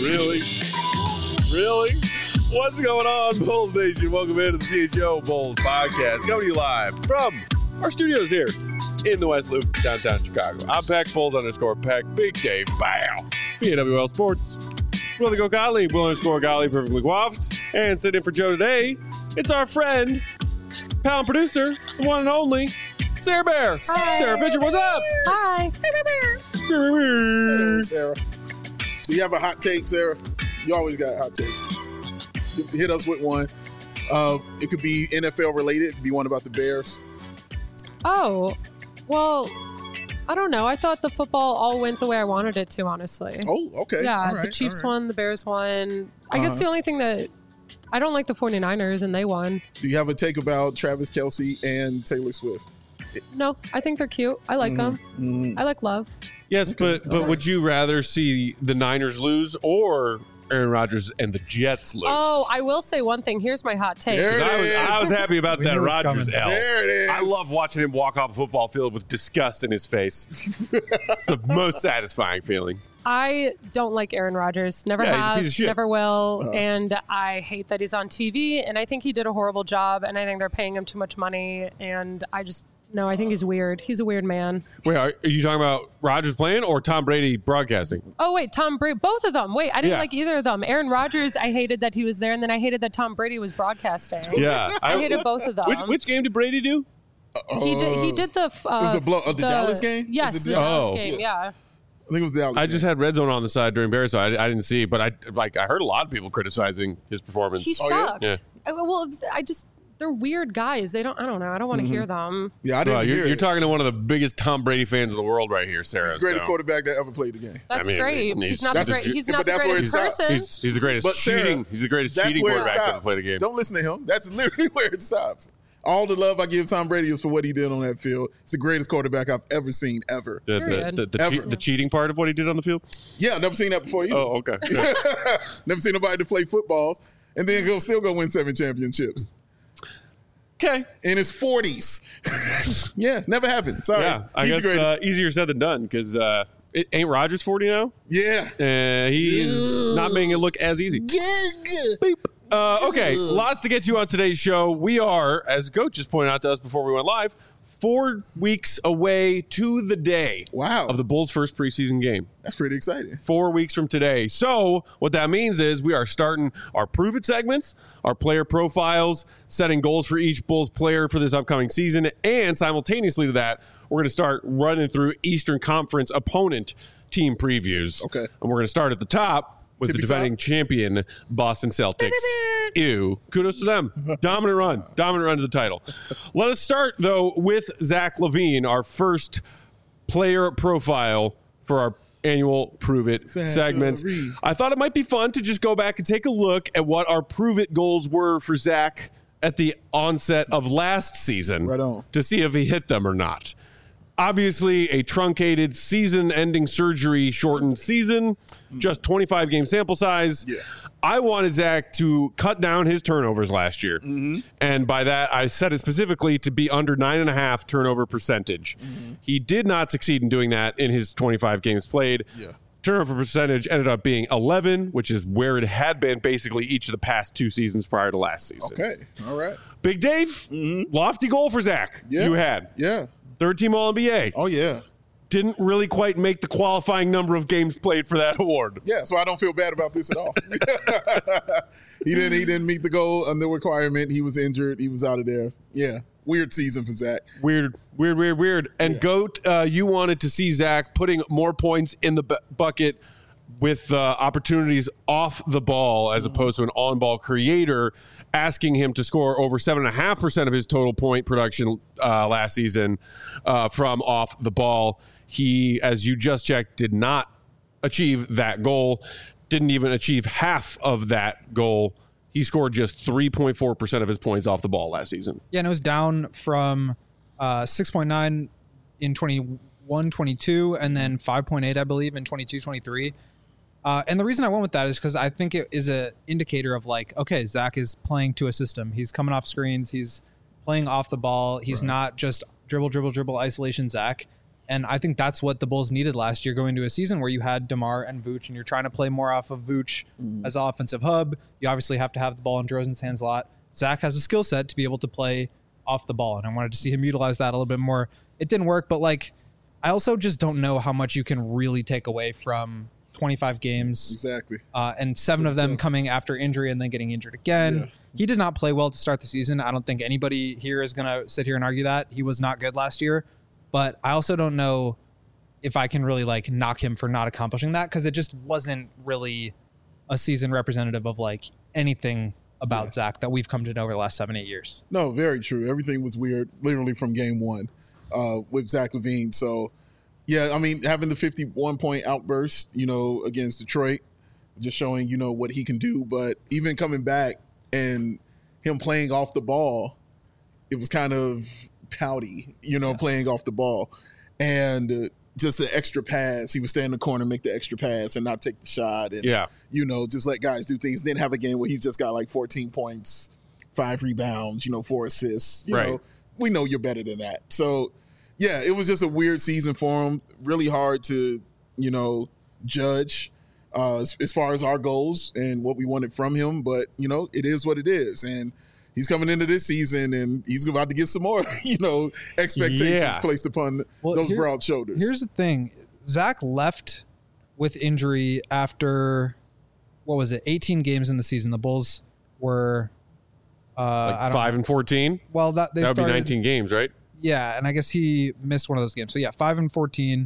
Really? What's going on, Bulls Nation? Welcome into the CHO Bulls podcast, coming to you live from our studios here in the West Loop, downtown Chicago. I'm Peck, Bulls_Peck, Big Dave, bow, PWL Sports. Willie Go Gottlieb, Will_Gottlieb, perfectly coiffed. And sitting in for Joe today, it's our friend, pal and producer, the one and only, Sarah Bear. Hi. Sarah Fisher, what's up? Hi. Hello, Sarah. Do you have a hot take, Sarah? You always got hot takes. Hit us with one. It could be NFL related. It could be one about the Bears. Oh, well, I don't know. I thought the football all went the way I wanted it to, honestly. Oh, okay. Yeah, All right, the Chiefs all right. won, the Bears won. I guess the only thing that I don't like the 49ers, and they won. Do you have a take about Travis Kelce and Taylor Swift? No, I think they're cute. I like them. I like love. Yes, but would you rather see the Niners lose or Aaron Rodgers and the Jets lose? Oh, I will say one thing. Here's my hot take. There it is. I was happy about We that knew it was Rodgers coming. L. There it is. I love watching him walk off a football field with disgust in his face. It's the most satisfying feeling. I don't like Aaron Rodgers. Never Yeah, he's a have, piece of shit. never will. And I hate that he's on TV. And I think he did a horrible job. And I think they're paying him too much money. And no, I think he's weird. He's a weird man. Wait, are you talking about Rodgers playing or Tom Brady broadcasting? Oh, wait, Tom Brady. Both of them. Wait, I didn't Yeah. like either of them. Aaron Rodgers, I hated that he was there. And then I hated that Tom Brady was broadcasting. Yeah. I hated both of them. Which game did Brady do? He did the... was the Dallas game? Yes, Was it the the Dallas Oh. game, yeah. I think it was Dallas. I just had Red Zone on the side during Bears, so I didn't see it. But I heard a lot of people criticizing his performance. He yeah? sucked. Yeah. Well, they're weird guys. I don't know. I don't want to hear them. Yeah, I didn't Well, hear you're it. talking to one of the biggest Tom Brady fans in the world right here, Sarah. He's the greatest so- quarterback that ever played the game. That's I mean, great. he's- He's not that's the a- great. He's but not the that's where greatest it stops. person. He's the greatest But Sarah, cheating. He's the greatest That's cheating where it quarterback to ever stops. play the game. Don't listen to him. That's literally where it stops. All the love I give Tom Brady is for what he did on that field. He's the greatest quarterback I've ever seen, ever. Period. The cheating part of what he did on the field? Yeah, never seen that before either. Oh, okay. Yeah. Never seen nobody to play footballs and then still go win 7 championships. Okay. In his 40s. Yeah, never happened. Sorry. Yeah, I He's the guess greatest. easier said than done because it ain't Rodgers 40 now. Yeah. He is not making it look as easy. Okay, lots to get to on today's show. We are, as Goat just pointed out to us before we went live, 4 weeks away to the day Wow. of the Bulls' first preseason game. That's pretty exciting. 4 weeks from today. So what that means is we are starting our Prove It segments, our player profiles, setting goals for each Bulls player for this upcoming season, and simultaneously to that, we're going to start running through Eastern Conference opponent team previews. Okay. And we're going to start at the top with Tippy the defending top. champion Boston Celtics. Ew. Kudos to them. Dominant run to the title. Let us start, though, with Zach LaVine, our first player profile for our annual Prove It Zach segments. LaVine. I thought it might be fun to just go back and take a look at what our Prove It goals were for Zach at the onset of last season. Right on. To see if he hit them or not. Obviously, a truncated season-ending surgery-shortened season, just 25-game sample size. Yeah. I wanted Zach to cut down his turnovers last year. And by that, I said it specifically to be under 9.5 turnover percentage. He did not succeed in doing that in his 25 games played. Yeah. Turnover percentage ended up being 11, which is where it had been basically each of the past 2 seasons prior to last season. Okay. All right. Big Dave, lofty goal for Zach. Yeah. You had. Yeah. Third team All-NBA. Oh, yeah. Didn't really quite make the qualifying number of games played for that award. Yeah, so I don't feel bad about this at all. He didn't meet the goal and the requirement. He was injured. He was out of there. Yeah. Weird season for Zach. Weird. And Goat, you wanted to see Zach putting more points in the bucket with opportunities off the ball as opposed to an on-ball creator, asking him to score over 7.5% of his total point production last season from off the ball. He, as you just checked, did not achieve that goal, didn't even achieve half of that goal. He scored just 3.4% of his points off the ball last season. Yeah, and it was down from 6.9 in 21-22 and then 5.8, I believe, in 22-23. And the reason I went with that is because I think it is an indicator of like, okay, Zach is playing to a system. He's coming off screens. He's playing off the ball. He's not just dribble, isolation Zach. And I think that's what the Bulls needed last year, going to a season where you had DeMar and Vooch, and you're trying to play more off of Vooch as offensive hub. You obviously have to have the ball in DeRozan's hands a lot. Zach has a skill set to be able to play off the ball, and I wanted to see him utilize that a little bit more. It didn't work, but like, I also just don't know how much you can really take away from 25 games. Exactly. And 7 of them coming after injury and then getting injured again. Yeah. He did not play well to start the season. I don't think anybody here is going to sit here and argue that. He was not good last year. But I also don't know if I can really like knock him for not accomplishing that, because it just wasn't really a season representative of like anything about Zach that we've come to know over the last 7-8 years. No, very true. Everything was weird, literally from game one with Zach LaVine. So, yeah, I mean, having the 51-point outburst, against Detroit, just showing, what he can do. But even coming back and him playing off the ball, it was kind of pouty, playing off the ball. And just the extra pass. He would stay in the corner, make the extra pass, and not take the shot. And, just let guys do things. Then have a game where he's just got like 14 points, 5 rebounds, 4 assists. You know, we know you're better than that. So, yeah, it was just a weird season for him. Really hard to, judge as far as our goals and what we wanted from him. But, it is what it is. And he's coming into this season, and he's about to get some more, expectations placed upon those broad shoulders. Here's the thing. Zach left with injury after, 18 games in the season. The Bulls were 5-14. Well, that would be 19 games, right? Yeah, and I guess he missed one of those games. So yeah, 5-14.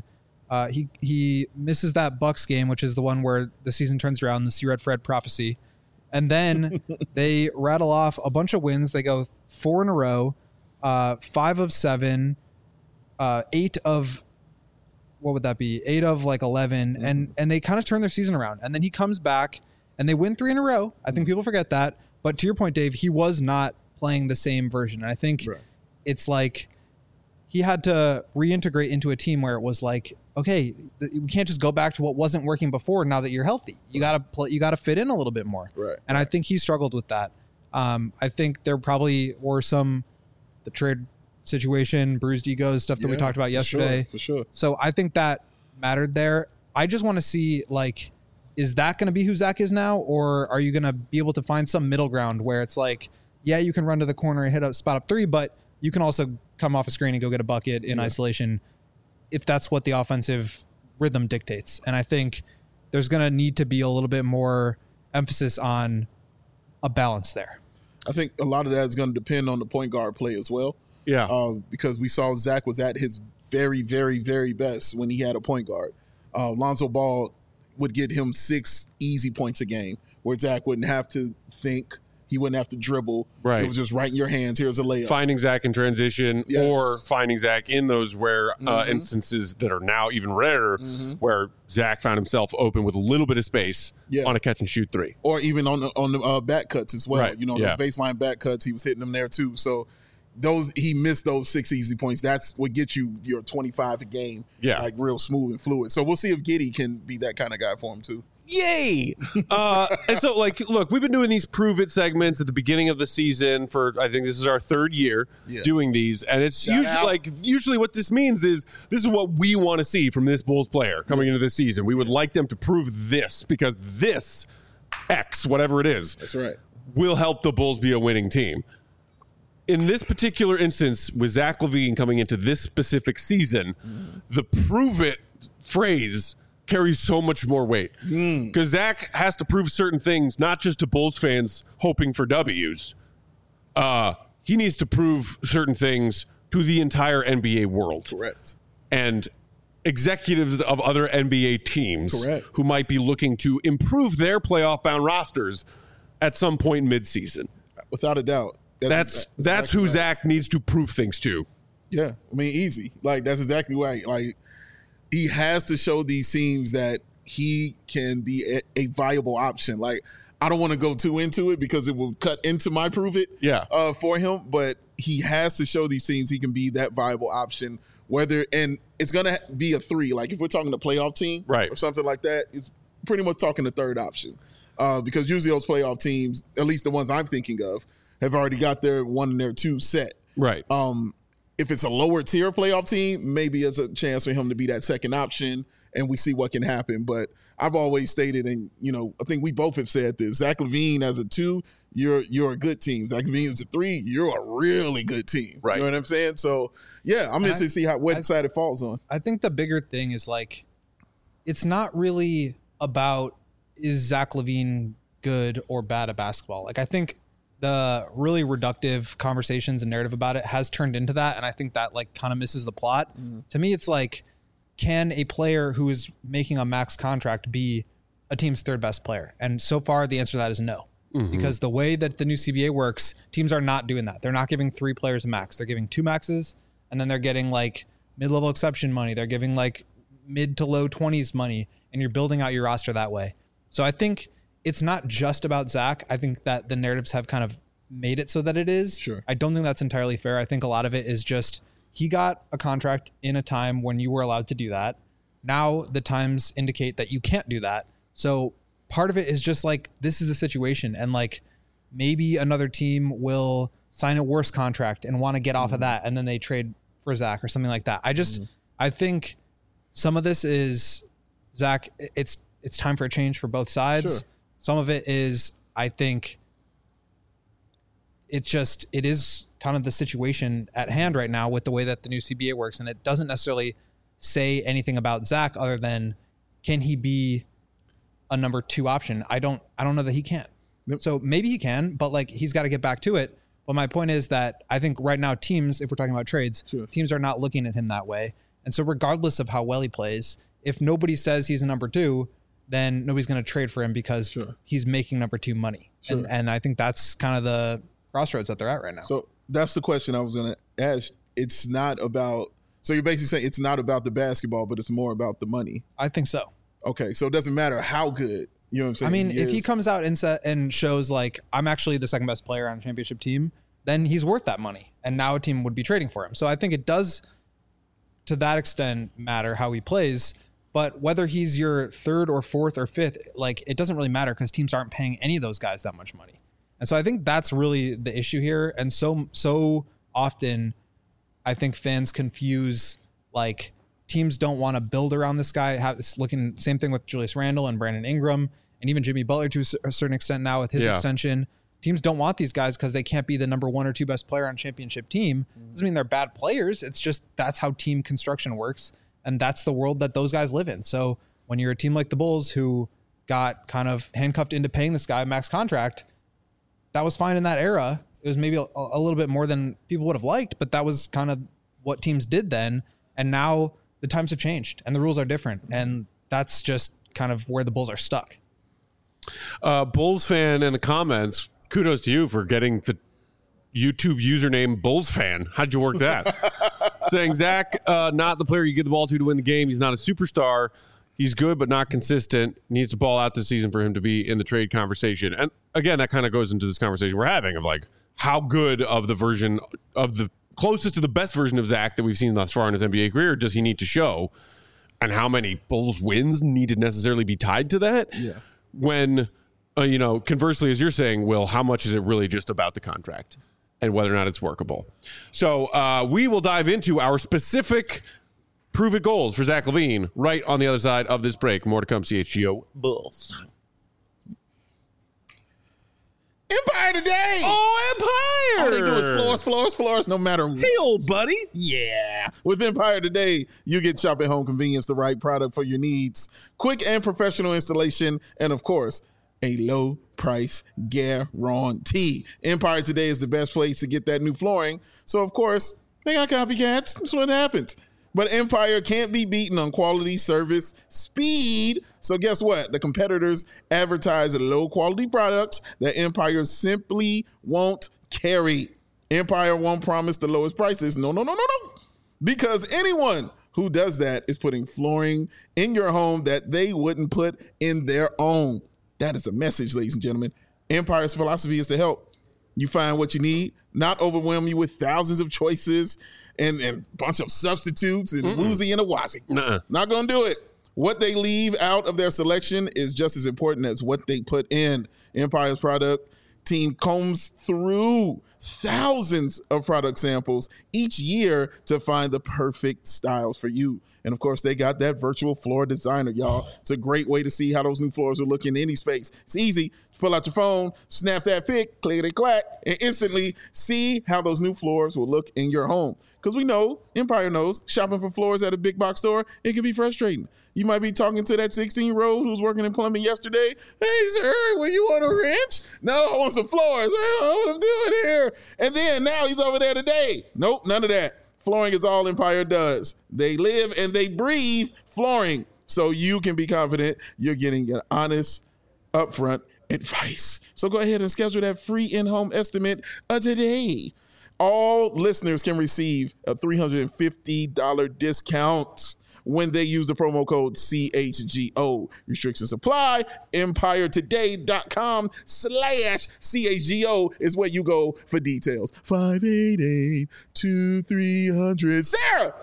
He misses that Bucks game, which is the one where the season turns around, the See Red Fred prophecy. And then they rattle off a bunch of wins. They go 4 in a row, 5 of 7, 8 of, what would that be? 8 of like 11. And they kind of turn their season around. And then he comes back and they win 3 in a row. I think people forget that. But to your point, Dave, he was not playing the same version. And I think it's like he had to reintegrate into a team where it was like, okay, we can't just go back to what wasn't working before now that you're healthy. You got to play, you got to fit in a little bit more. And I think he struggled with that. I think there probably were the trade situation, bruised egos, stuff that we talked about yesterday. For sure. So I think that mattered there. I just want to see, like, is that going to be who Zach is now? Or are you going to be able to find some middle ground where it's like, yeah, you can run to the corner and hit a spot up 3, but you can also come off a screen and go get a bucket in isolation if that's what the offensive rhythm dictates. And I think there's going to need to be a little bit more emphasis on a balance there. I think a lot of that is going to depend on the point guard play as well. Yeah. Because we saw Zach was at his very, very, very best when he had a point guard. Lonzo Ball would get him 6 easy points a game where Zach wouldn't have to think. He wouldn't have to dribble. It was just right in your hands. Here's a layup. Finding Zach in transition or finding Zach in those rare instances that are now even rarer where Zach found himself open with a little bit of space on a catch and shoot 3. Or even on the back cuts as well. Those baseline back cuts, he was hitting them there too. So he missed those 6 easy points. That's what gets you your 25 a game. Like real smooth and fluid. So we'll see if Giddey can be that kind of guy for him too. Yay! And so, look, we've been doing these Prove It segments at the beginning of the season for, I think this is our 3rd year doing these. And it's usually what this means is this is what we want to see from this Bulls player coming into this season. We would like them to prove this because this X, whatever it is, that's right, will help the Bulls be a winning team. In this particular instance, with Zach LaVine coming into this specific season, the Prove It phrase carries so much more weight because Zach has to prove certain things, not just to Bulls fans hoping for W's. He needs to prove certain things to the entire NBA world. Correct. And executives of other NBA teams who might be looking to improve their playoff-bound rosters at some point mid-season. Without a doubt. That's who Zach needs to prove things to. Yeah, I mean, easy. Like, that's exactly right. Like, he has to show these teams that he can be a viable option. Like, I don't want to go too into it because it will cut into my Prove It for him, but he has to show these teams he can be that viable option. And it's going to be a 3. Like, if we're talking a playoff team or something like that, it's pretty much talking the 3rd option. Because usually those playoff teams, at least the ones I'm thinking of, have already got their 1 and their 2 set. Right. if it's a lower tier playoff team, maybe it's a chance for him to be that second option, and we see what can happen. But I've always stated, and I think we both have said this: Zach LaVine as a 2, you're a good team. Zach LaVine as a 3, you're a really good team. Right. You know what I'm saying? So yeah, I'm interested to see what side it falls on. I think the bigger thing is like, it's not really about is Zach LaVine good or bad at basketball. Like I think the really reductive conversations and narrative about it has turned into that, and I think that like kind of misses the plot. To me, it's like, can a player who is making a max contract be a team's third best player? And so far, the answer to that is no. Because the way that the new CBA works, teams are not doing that. They're not giving 3 players a max. They're giving 2 maxes, and then they're getting like mid-level exception money. They're giving like mid to low 20s money, and you're building out your roster that way. So I think it's not just about Zach. I think that the narratives have kind of made it so that it is. Sure. I don't think that's entirely fair. I think a lot of it is just he got a contract in a time when you were allowed to do that. Now the times indicate that you can't do that. So part of it is just like, this is the situation. And like, maybe another team will sign a worse contract and want to get off of that. And then they trade for Zach or something like that. I think some of this is Zach. It's time for a change for both sides. Sure. Some of it is, I think it is kind of the situation at hand right now with the way that the new CBA works. And it doesn't necessarily say anything about Zach other than, can he be a number 2 option? I don't know that he can. Yep. So maybe he can, but like, he's got to get back to it. But my point is that I think right now teams, if we're talking about trades, Sure. teams are not looking at him that way. And so regardless of how well he plays, if nobody says he's a number 2, then nobody's going to trade for him because Sure. he's making number 2 money. Sure. And I think that's kind of the crossroads that they're at right now. So that's the question I was going to ask. It's not about, so you're basically saying it's not about the basketball, but it's more about the money. I think so. Okay, so it doesn't matter how good, you know what I'm saying? I mean, if he is. comes out and shows like, I'm actually the second best player on a championship team, then he's worth that money. And now a team would be trading for him. So I think it does, to that extent, matter how he plays. But whether he's your 3rd or 4th or 5th, like, it doesn't really matter because teams aren't paying any of those guys that much money. And so I think that's really the issue here. And so often, I think fans confuse, like, teams don't want to build around this guy. It's looking same thing with Julius Randle and Brandon Ingram and even Jimmy Butler to a certain extent now with his extension. Teams don't want these guys because they can't be the number 1 or 2 best player on a championship team. Doesn't mean they're bad players. It's just that's how team construction works. And that's the world that those guys live in. So when you're a team like the Bulls who got kind of handcuffed into paying this guy a max contract, that was fine in that era. It was maybe a little bit more than people would have liked, but that was kind of what teams did then. And now the times have changed and the rules are different. And that's just kind of where the Bulls are stuck. Bulls fan in the comments, kudos to you for getting the YouTube username Bulls fan. How'd you work that? Saying Zach, not the player you give the ball to win the game. He's not a superstar. He's good, but not consistent. Needs to ball out this season for him to be in the trade conversation. And again, that kind of goes into this conversation we're having of like how good of the version of the closest to the best version of Zach that we've seen thus far in his NBA career does he need to show, and how many Bulls wins need to necessarily be tied to that. Yeah. When, conversely, as you're saying, Will, how much is it really just about the contract and whether or not it's workable? So we will dive into our specific prove it goals for Zach LaVine right on the other side of this break. More to come, CHGO Bulls. Empire today. Oh, Empire! All they do is floors, no matter what. Hey, old buddy. Yeah. With Empire today, you get shop at home convenience, the right product for your needs, quick and professional installation, and of course, a low price guarantee. Empire today is the best place to get that new flooring. So of course, they got copycats. That's what happens. But Empire can't be beaten on quality, service, speed. So guess what? The competitors advertise low quality products that Empire simply won't carry. Empire won't promise the lowest prices. No. Because anyone who does that is putting flooring in your home that they wouldn't put in their own. That is a message, ladies and gentlemen. Empire's philosophy is to help you find what you need, not overwhelm you with thousands of choices and a bunch of substitutes and woozy and a wazi. Not going to do it. What they leave out of their selection is just as important as what they put in. Empire's product team combs through thousands of product samples each year to find the perfect styles for you. And of course, they got that virtual floor designer, y'all. It's a great way to see how those new floors will look in any space. It's easy. Just pull out your phone, snap that pic, click, and instantly see how those new floors will look in your home. Because we know, Empire knows, shopping for floors at a big box store, it can be frustrating. You might be talking to that 16-year-old who's working in plumbing yesterday. Hey, sir, well, you want a wrench? No, I want some floors. I don't know what I'm doing here. And then now he's over there today. Nope, none of that. Flooring is all Empire does. They live and they breathe flooring. So you can be confident you're getting an honest, upfront advice. So go ahead and schedule that free in-home estimate today. All listeners can receive a $350 discount when they use the promo code CHGO. Restrictions apply. EmpireToday.com/CHGO is where you go for details. 588-2300. Sarah!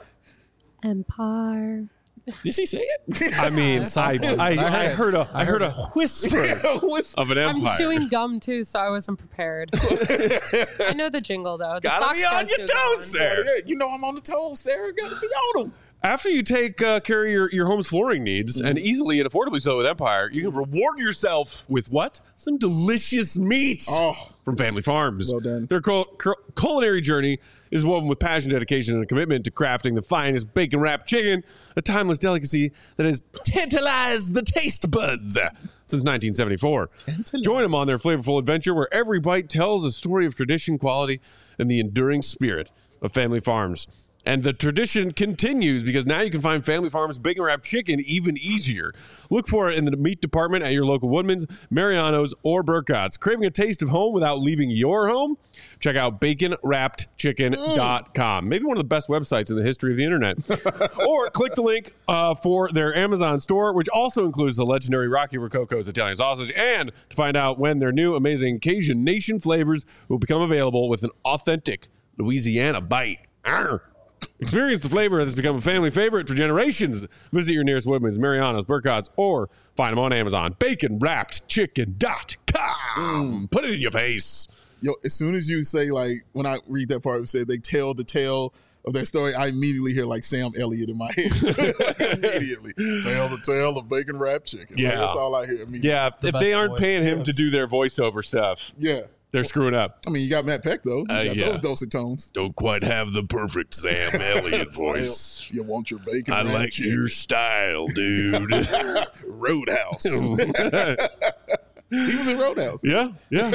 Empire. Did she say it? I mean, I heard a whisper of an I'm empire. chewing gum too, so I wasn't prepared. I know the jingle though. The Gotta Sox be on guys your do a good toes, one. Sarah. Yeah, you know I'm on the toes, Sarah. Gotta be on them. After you take care of your home's flooring needs, and easily and affordably so with Empire, you can reward yourself with what? Some delicious meats from Family Farms. Well done. Their culinary journey is woven with passion, dedication, and a commitment to crafting the finest bacon-wrapped chicken, a timeless delicacy that has tantalized the taste buds since 1974. Join them on their flavorful adventure where every bite tells a story of tradition, quality, and the enduring spirit of Family Farms. And the tradition continues because now you can find Family Farms bacon wrapped chicken even easier. Look for it in the meat department at your local Woodman's, Mariano's, or Burkott's. Craving a taste of home without leaving your home? Check out baconwrappedchicken.com. Maybe one of the best websites in the history of the internet. Or click the link for their Amazon store, which also includes the legendary Rocky Rococo's Italian sausage, and to find out when their new amazing Cajun Nation flavors will become available with an authentic Louisiana bite. Arr! Experience the flavor that's become a family favorite for generations. Visit your nearest Woodman's, Mariano's, Burkott's, or find them on Amazon. BaconWrappedChicken.com. Put it in your face. Yo, as soon as you say, like, when I read that part, it said they tell the tale of that story, I immediately hear, like, Sam Elliott in my head. Immediately. Tell the tale of bacon wrapped chicken. Yeah. Like, that's all I hear immediately. Yeah, if they aren't paying him to do their voiceover stuff, Yeah. they're screwing up. I mean, you got Matt Peck, though. You got Yeah. those dulcet tones. Don't quite have the perfect Sam Elliott voice. You want your bacon I wrapped like chicken. your style, dude. Roadhouse. He was in Roadhouse. Yeah.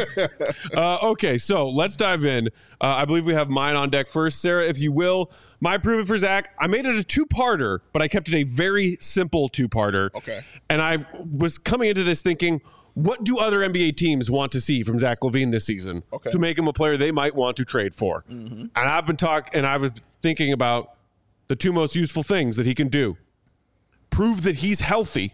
Okay, so let's dive in. I believe we have mine on deck first. Sarah, if you will. My Prove It for Zach. I made it a two-parter, but I kept it a very simple two-parter. Okay. And I was coming into this thinking, what do other NBA teams want to see from Zach LaVine this season to make him a player they might want to trade for? And I was thinking about the two most useful things that he can do. Prove that he's healthy.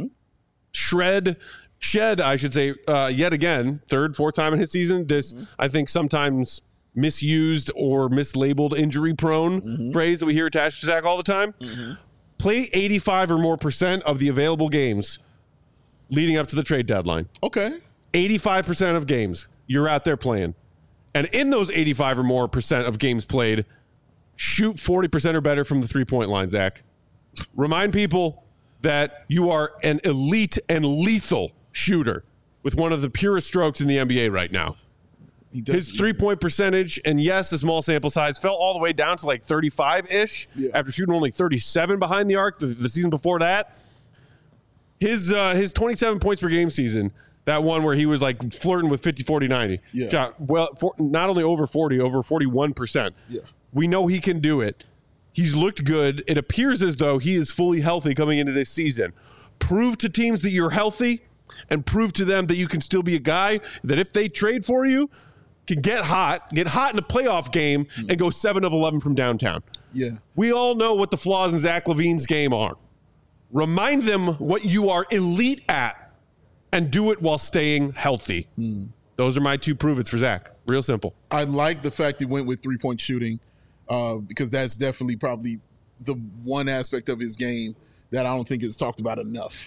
Shed, I should say, yet again, third, fourth time in his season. This, I think, sometimes misused or mislabeled injury-prone phrase that we hear attached to Zach all the time. Play 85 or more % of the available games leading up to the trade deadline. Okay. 85% of games you're out there playing. And in those 85 or more % of games played, shoot 40% or better from the three-point line, Zach. Remind people that you are an elite and lethal shooter with one of the purest strokes in the NBA right now. His three-point percentage, and yes, the small sample size, fell all the way down to like 35-ish after shooting only 37 behind the arc the season before that. His 27 points per game season, that one where he was like flirting with 50, 40, 90. Shot not only over 40, over 41%. Yeah. We know he can do it. He's looked good. It appears as though he is fully healthy coming into this season. Prove to teams that you're healthy and prove to them that you can still be a guy that if they trade for you, can get hot in a playoff game and go 7 of 11 from downtown. Yeah. We all know what the flaws in Zach LaVine's game are. Remind them what you are elite at and do it while staying healthy. Those are my two prove-its for Zach. Real simple. I like the fact he went with three-point shooting because that's definitely probably the one aspect of his game that I don't think is talked about enough. Yeah.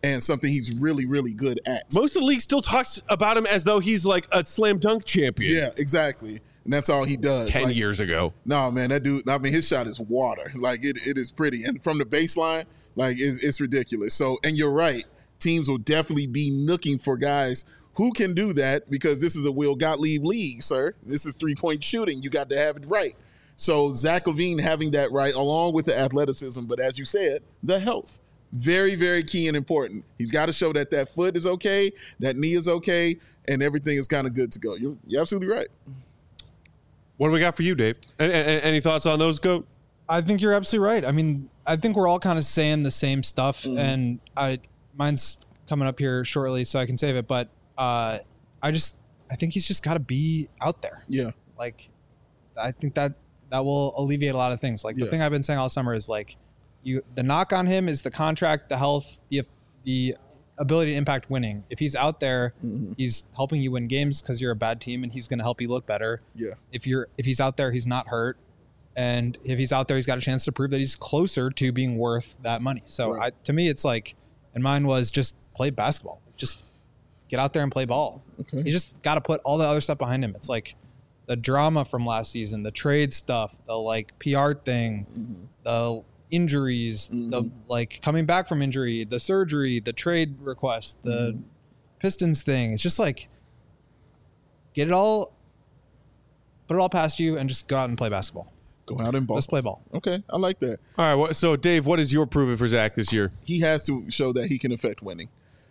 and something he's really, really good at. Most of the league still talks about him as though he's like a slam dunk champion. Yeah, exactly. And that's all he does. 10 years ago. No, man, that dude, I mean, his shot is water. Like, it is pretty. And from the baseline, like, it's ridiculous. So, and you're right. Teams will definitely be looking for guys who can do that, because this is a Will Gottlieb league, sir. This is three-point shooting. You got to have it right. So Zach LaVine having that right, along with the athleticism, but as you said, the health. Very, very key and important. He's got to show that that foot is okay, that knee is okay, and everything is kind of good to go. You're absolutely right. What do we got for you, Dave? Any thoughts on those, Goat? I think you're absolutely right. I mean, I think we're all kind of saying the same stuff, and mine's coming up here shortly, so I can save it. But I think he's just got to be out there. Yeah. Like, I think that will alleviate a lot of things. Like, the thing I've been saying all summer is, like, the knock on him is the contract, the health, the ability to impact winning. If he's out there, he's helping you win games because you're a bad team, and he's going to help you look better. Yeah. If he's out there, he's not hurt. And if he's out there, he's got a chance to prove that he's closer to being worth that money. So to me, it's like, and mine was just play basketball. Just get out there and play ball. Okay. You just got to put all the other stuff behind him. It's like the drama from last season, the trade stuff, the like PR thing, the injuries, the like coming back from injury, the surgery, the trade request, the Pistons thing. It's just like, put it all past you and just go out and play basketball. Go out and ball. Let's play ball. Okay, I like that. All right, so Dave, what is your proving for Zach this year? He has to show that he can affect winning.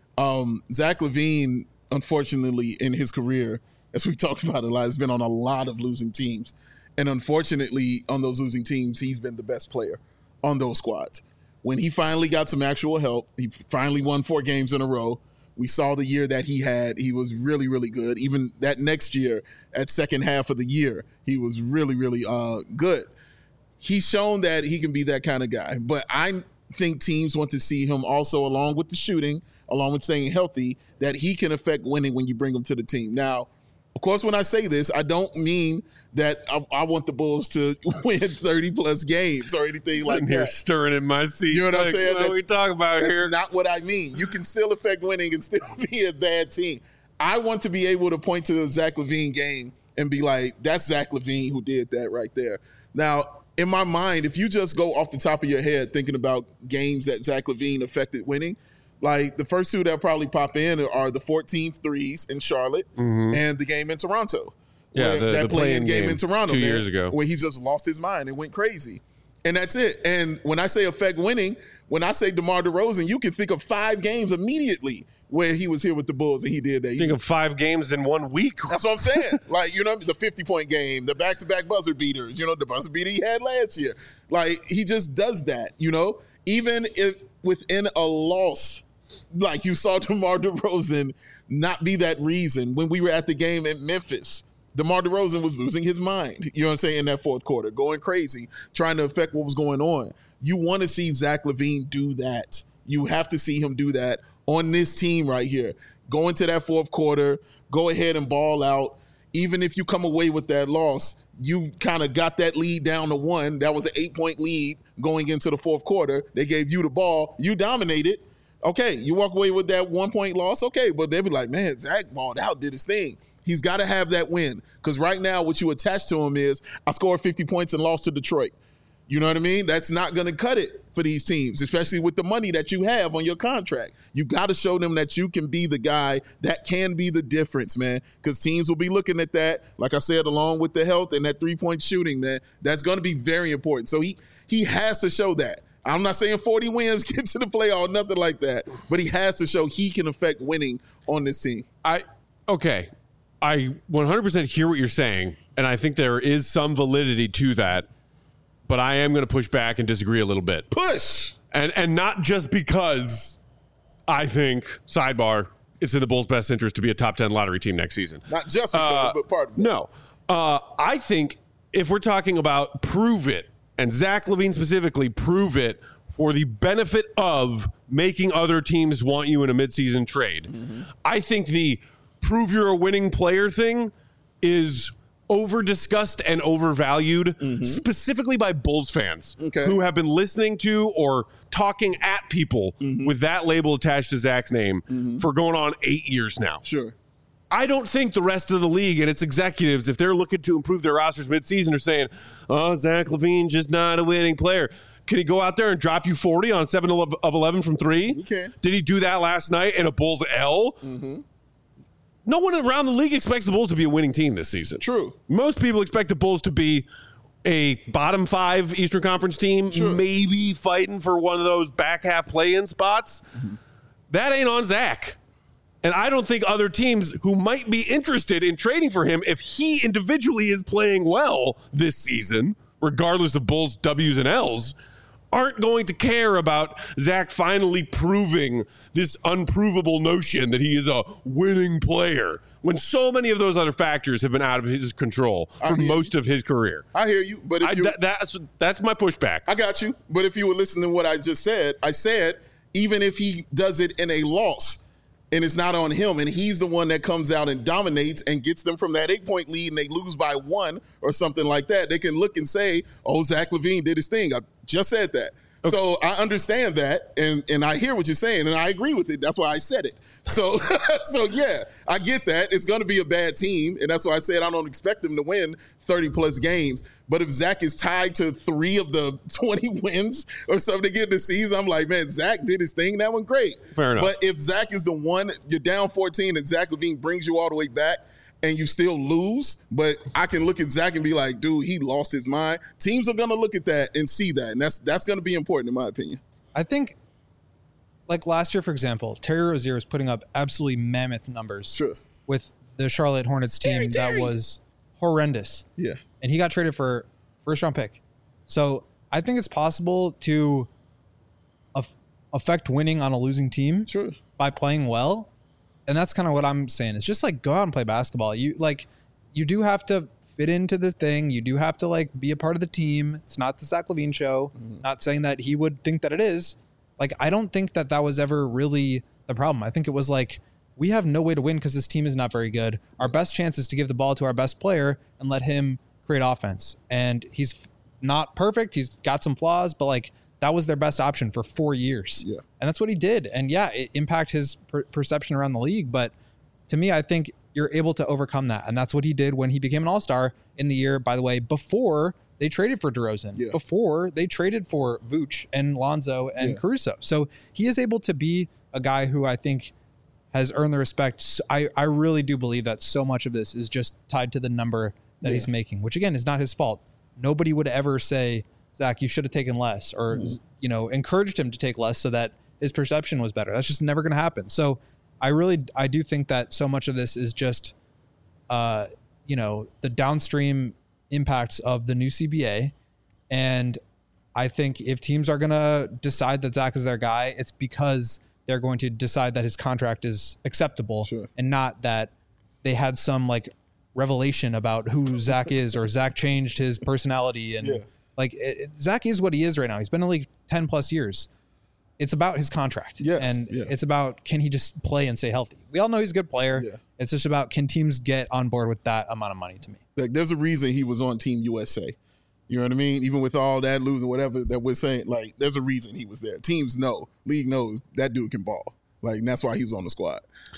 Zach LaVine, unfortunately, in his career, as we talked about a lot, has been on a lot of losing teams. And unfortunately, on those losing teams, he's been the best player on those squads. When he finally got some actual help, he finally won 4 games in a row. We saw the year that he had. He was really, really good. Even that next year, at second half of the year, he was really, really good. He's shown that he can be that kind of guy. But I think teams want to see him also, along with the shooting, along with staying healthy, that he can affect winning when you bring him to the team. Now, of course, when I say this, I don't mean that I want the Bulls to win 30-plus games or anything like that. Here stirring in my seat. You know what I'm saying? What are we talking about here? That's not what I mean. You can still affect winning and still be a bad team. I want to be able to point to the Zach LaVine game and be like, that's Zach LaVine who did that right there. Now, in my mind, if you just go off the top of your head thinking about games that Zach LaVine affected winning, like the first 2 that probably pop in are the 14th threes in Charlotte and the game in Toronto. Yeah, that play-in game in Toronto 2 years ago, where he just lost his mind and went crazy. And that's it. And when I say affect winning, when I say DeMar DeRozan, you can think of 5 games immediately where he was here with the Bulls and he did that. Think of 5 games in 1 week. That's what I'm saying. Like, you know, the 50-point game, the back-to-back buzzer beaters, you know, the buzzer beater he had last year. Like, he just does that, you know? Even if within a loss, like you saw DeMar DeRozan not be that reason. When we were at the game in Memphis, DeMar DeRozan was losing his mind, you know what I'm saying, in that fourth quarter, going crazy, trying to affect what was going on. You want to see Zach LaVine do that. You have to see him do that on this team right here. Go into that fourth quarter, go ahead and ball out. Even if you come away with that loss, you kind of got that lead down to 1. That was an 8-point lead going into the fourth quarter. They gave you the ball. You dominated. Okay, you walk away with that 1-point loss. Okay, but they'll be like, man, Zach balled out, did his thing. He's got to have that win, because right now what you attach to him is, I scored 50 points and lost to Detroit. You know what I mean? That's not going to cut it for these teams, especially with the money that you have on your contract. You got to show them that you can be the guy that can be the difference, man, because teams will be looking at that, like I said, along with the health and that 3-point shooting, man. That's going to be very important. So he has to show that. I'm not saying 40 wins, get to the playoff, nothing like that. But he has to show he can affect winning on this team. I 100% hear what you're saying, and I think there is some validity to that. But I am going to push back and disagree a little bit. Push! And not just because I think, sidebar, it's in the Bulls' best interest to be a top 10 lottery team next season. Not just because, but part of it. No. I think if we're talking about prove it, and Zach LaVine specifically, prove it for the benefit of making other teams want you in a midseason trade. I think the prove you're a winning player thing is over-discussed and overvalued, specifically by Bulls fans who have been listening to or talking at people with that label attached to Zach's name for going on 8 years now. Sure. I don't think the rest of the league and its executives, if they're looking to improve their rosters midseason, are saying, oh, Zach LaVine just not a winning player. Can he go out there and drop you 40 on 7 of 11 from 3? He can. Did he do that last night in a Bulls L? No one around the league expects the Bulls to be a winning team this season. True. Most people expect the Bulls to be a bottom 5 Eastern Conference team, maybe fighting for one of those back half play-in spots. That ain't on Zach. And I don't think other teams who might be interested in trading for him, if he individually is playing well this season, regardless of Bulls W's and L's, aren't going to care about Zach finally proving this unprovable notion that he is a winning player when so many of those other factors have been out of his control for most of his career. I hear you, but that's my pushback. I got you. But if you were listening to what I just said, I said even if he does it in a loss and it's not on him and he's the one that comes out and dominates and gets them from that 8-point lead and they lose by 1 or something like that, they can look and say, oh, Zach LaVine did his thing. I just said that. Okay. So I understand that, and I hear what you're saying, and I agree with it. That's why I said it. So, yeah, I get that. It's going to be a bad team, and that's why I said I don't expect them to win 30-plus games. But if Zach is tied to 3 of the 20 wins or something to get the season, I'm like, man, Zach did his thing. That went great. Fair enough. But if Zach is the one, you're down 14, and Zach LaVine brings you all the way back, and you still lose, but I can look at Zach and be like, dude, he lost his mind. Teams are going to look at that and see that, and that's going to be important in my opinion. I think, like last year, for example, Terry Rozier was putting up absolutely mammoth numbers with the Charlotte Hornets team that was horrendous. Yeah. And he got traded for first-round pick. So I think it's possible to affect winning on a losing team by playing well. And that's kind of what I'm saying. It's just like go out and play basketball. You do have to fit into the thing. You do have to like be a part of the team. It's not the Zach LaVine show. Not saying that he would think that it is. Like, I don't think that was ever really the problem. I think it was like, we have no way to win because this team is not very good. Our best chance is to give the ball to our best player and let him create offense. And he's not perfect. He's got some flaws, but like, that was their best option for 4 years. Yeah. And that's what he did. And yeah, it impacted his perception around the league. But to me, I think you're able to overcome that. And that's what he did when he became an all-star in the year, by the way, before they traded for DeRozan, before they traded for Vooch and Lonzo and Caruso. So he is able to be a guy who I think has earned the respect. I really do believe that so much of this is just tied to the number that he's making, which again is not his fault. Nobody would ever say, Zach, you should have taken less, or encouraged him to take less so that his perception was better. That's just never going to happen. So I do think that so much of this is just, the downstream impacts of the new CBA. And I think if teams are going to decide that Zach is their guy, it's because they're going to decide that his contract is acceptable and not that they had some like revelation about who Zach is or Zach changed his personality and Zach is what he is right now. He's been in the league 10 plus years. It's about his contract. It's about, can he just play and stay healthy? We all know he's a good player. Yeah. It's just about, can teams get on board with that amount of money to me? Like, there's a reason he was on Team USA. You know what I mean? Even with all that losing, whatever that we're saying, like, there's a reason he was there. Teams know, league knows that dude can ball. Like, and that's why he was on the squad.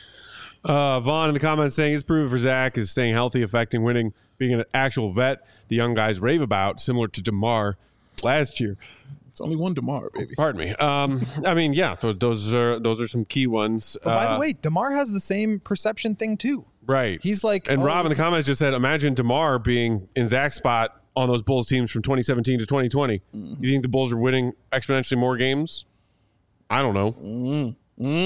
Vaughn in the comments saying his proven for Zach is staying healthy, affecting winning, being an actual vet the young guys rave about, similar to DeMar last year. It's only one DeMar, baby. Pardon me. I mean, yeah, those are some key ones. But by the way, DeMar has the same perception thing too. Right. He's like, and Rob in the comments just said, imagine DeMar being in Zach's spot on those Bulls teams from 2017 to 2020. You think the Bulls are winning exponentially more games? I don't know.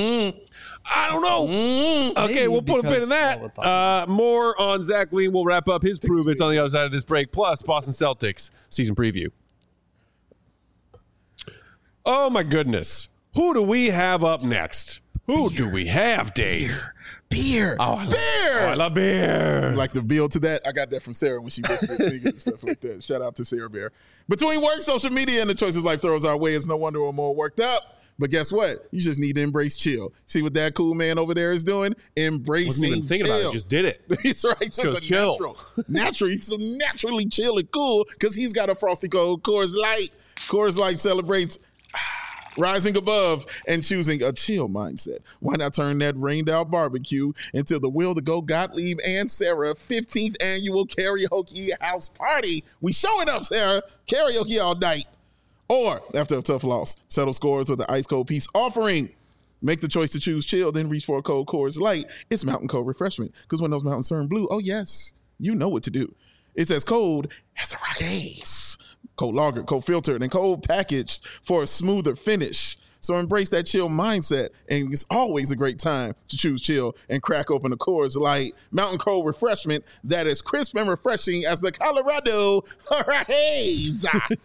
I don't know. Okay, maybe, we'll put a pin in that. More on Zach LaVine. We'll wrap up his prove-its on the other side of this break. Plus, Boston Celtics season preview. Oh, my goodness. Who do we have up next? Who do we have, Dave? Beer. Oh, I love beer. Like the bill to that? I got that from Sarah when she whispered and stuff like that. Shout out to Sarah Bear. Between work, social media, and the choices life throws our way, it's no wonder we're more worked up. But guess what? You just need to embrace chill. See what that cool man over there is doing? Embracing Wasn't even thinking about it, just did it. He's right. Just Just a chill. natural. He's so naturally chill and cool because he's got a Frosty Cold Coors Light. Coors Light celebrates rising above and choosing a chill mindset. Why not turn that rained out barbecue into the Will to Go Gottlieb and Sarah 15th annual karaoke house party? We showing up, Sarah. Karaoke all night. Or, after a tough loss, settle scores with the Ice Cold Peace offering. Make the choice to choose chill, then reach for a cold Coors Light. It's mountain cold refreshment. Because when those mountains turn blue, oh yes, you know what to do. It's as cold as the Rockies. Cold lager, cold filtered, and cold packaged for a smoother finish. So embrace that chill mindset, and it's always a great time to choose chill and crack open a Coors Light mountain cold refreshment that is crisp and refreshing as the Colorado Rockies.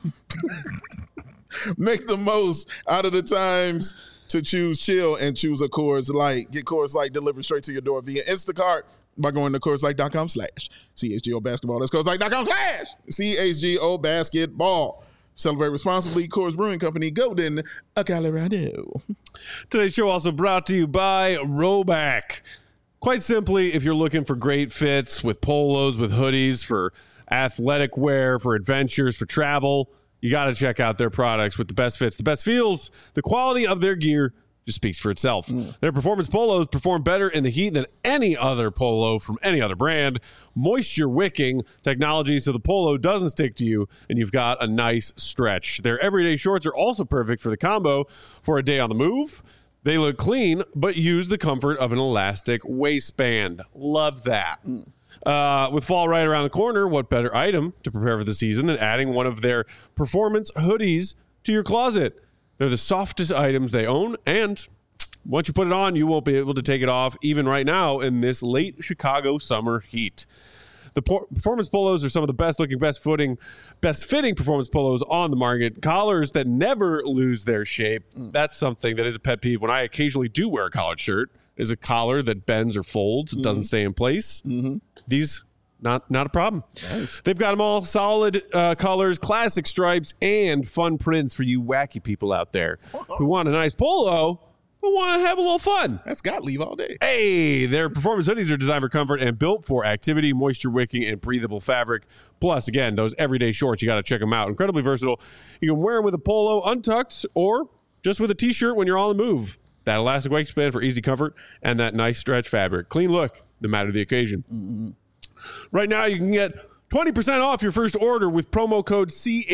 Make the most out of the times to choose chill and choose a Coors Light. Get Coors Light delivered straight to your door via Instacart by going to CoorsLight.com/CHGO basketball. That's CoorsLight.com/CHGO basketball. Celebrate responsibly. Coors Brewing Company, Golden, Colorado. Today's show also brought to you by Roback. Quite simply, if you're looking for great fits with polos, with hoodies, for athletic wear, for adventures, for travel, you got to check out their products with the best fits, the best feels. The quality of their gear just speaks for itself. Their performance polos perform better in the heat than any other polo from any other brand. Moisture wicking technology so the polo doesn't stick to you and you've got a nice stretch. Their everyday shorts are also perfect for the combo for a day on the move. They look clean, but use the comfort of an elastic waistband. Love that. With fall right around the corner, what better item to prepare for the season than adding one of their performance hoodies to your closet? They're the softest items they own, and once you put it on, you won't be able to take it off even right now in this late Chicago summer heat. The performance polos are some of the best looking, best fitting performance polos on the market. Collars that never lose their shape. That's something that is a pet peeve. When I occasionally do wear a collared shirt, is a collar that bends or folds, doesn't stay in place. These, not a problem. Nice. They've got them all solid colors, classic stripes, and fun prints for you wacky people out there who want a nice polo but want to have a little fun. That's Gottlieb all day. Hey, their performance hoodies are designed for comfort and built for activity, moisture wicking, and breathable fabric. Plus, again, those everyday shorts, you got to check them out. Incredibly versatile. You can wear them with a polo untucked or just with a t-shirt when you're on the move. That elastic waistband for easy comfort and that nice stretch fabric. Clean look, no matter the occasion. Right now, you can get 20% off your first order with promo code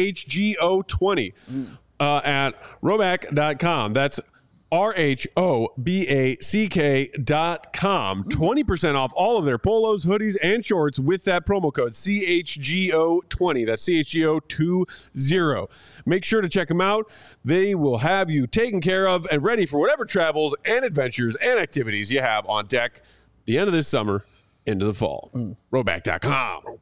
CHGO20 at Roback.com. That's RHOBACK.com. 20% off all of their polos, hoodies, and shorts with that promo code CHGO20. That's CHGO20. Make sure to check them out. They will have you taken care of and ready for whatever travels and adventures and activities you have on deck the end of this summer into the fall. Roback.com.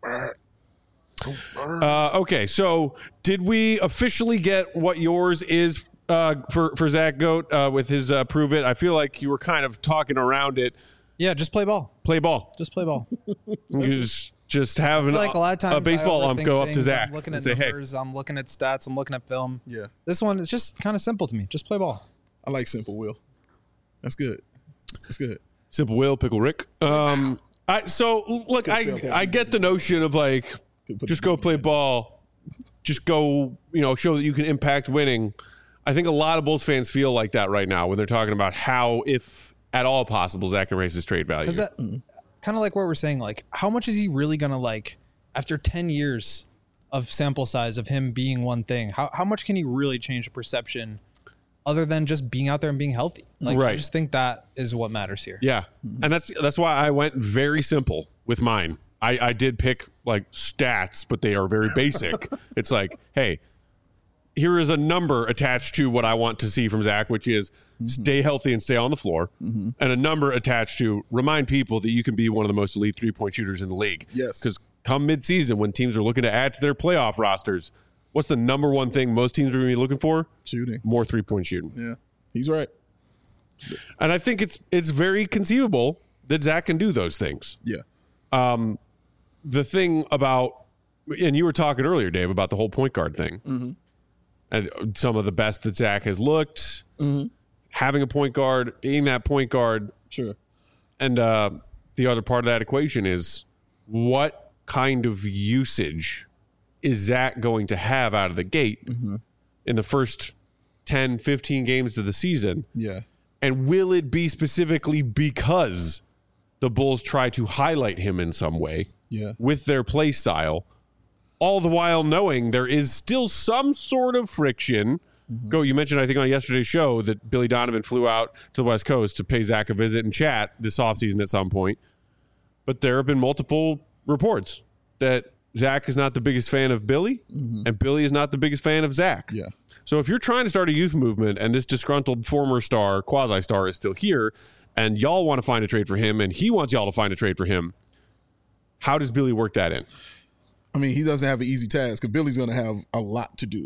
Okay, so did we officially get what yours is for Zach Goat with his prove it? I feel like you were kind of talking around it. Yeah, just play ball. Play ball. Just play ball. just have like a lot of times a baseball I ump overthink go up to things. Zach I'm looking and at say, numbers, I'm looking at stats, I'm looking at film. Yeah. This one is just kind of simple to me. Just play ball. I like Simple Will. That's good. That's good. Simple Will, Pickle Rick. I get the notion of like, just go play ball. Just go, show that you can impact winning. I think a lot of Bulls fans feel like that right now when they're talking about how, if at all possible, Zach can raise his trade value. Because that kind of like what we're saying, like, how much is he really going to, after 10 years of sample size of him being one thing, how much can he really change the perception other than just being out there and being healthy? Like, right. I just think that is what matters here. Yeah. And that's why I went very simple with mine. I did pick stats, but they are very basic. It's like, hey, here is a number attached to what I want to see from Zach, which is stay healthy and stay on the floor. And a number attached to remind people that you can be one of the most elite 3-point shooters in the league. Yes. Because come midseason, when teams are looking to add to their playoff rosters, what's the number one thing most teams are going to be looking for? Shooting. More 3-point shooting. Yeah, he's right. And I think it's very conceivable that Zach can do those things. Yeah. The thing about, and you were talking earlier, Dave, about the whole point guard thing. And some of the best that Zach has looked, Having a point guard, being that point guard. Sure. And the other part of that equation is what kind of usage is Zach going to have out of the gate in the first 10, 15 games of the season? Yeah. And will it be specifically because the Bulls try to highlight him in some way with their play style, all the while knowing there is still some sort of friction? You mentioned, I think, on yesterday's show that Billy Donovan flew out to the West Coast to pay Zach a visit and chat this offseason at some point. But there have been multiple reports that Zach is not the biggest fan of Billy, and Billy is not the biggest fan of Zach. Yeah. So if you're trying to start a youth movement and this disgruntled former star, quasi-star, is still here, and y'all want to find a trade for him, and he wants y'all to find a trade for him, how does Billy work that in? I mean, he doesn't have an easy task because Billy's going to have a lot to do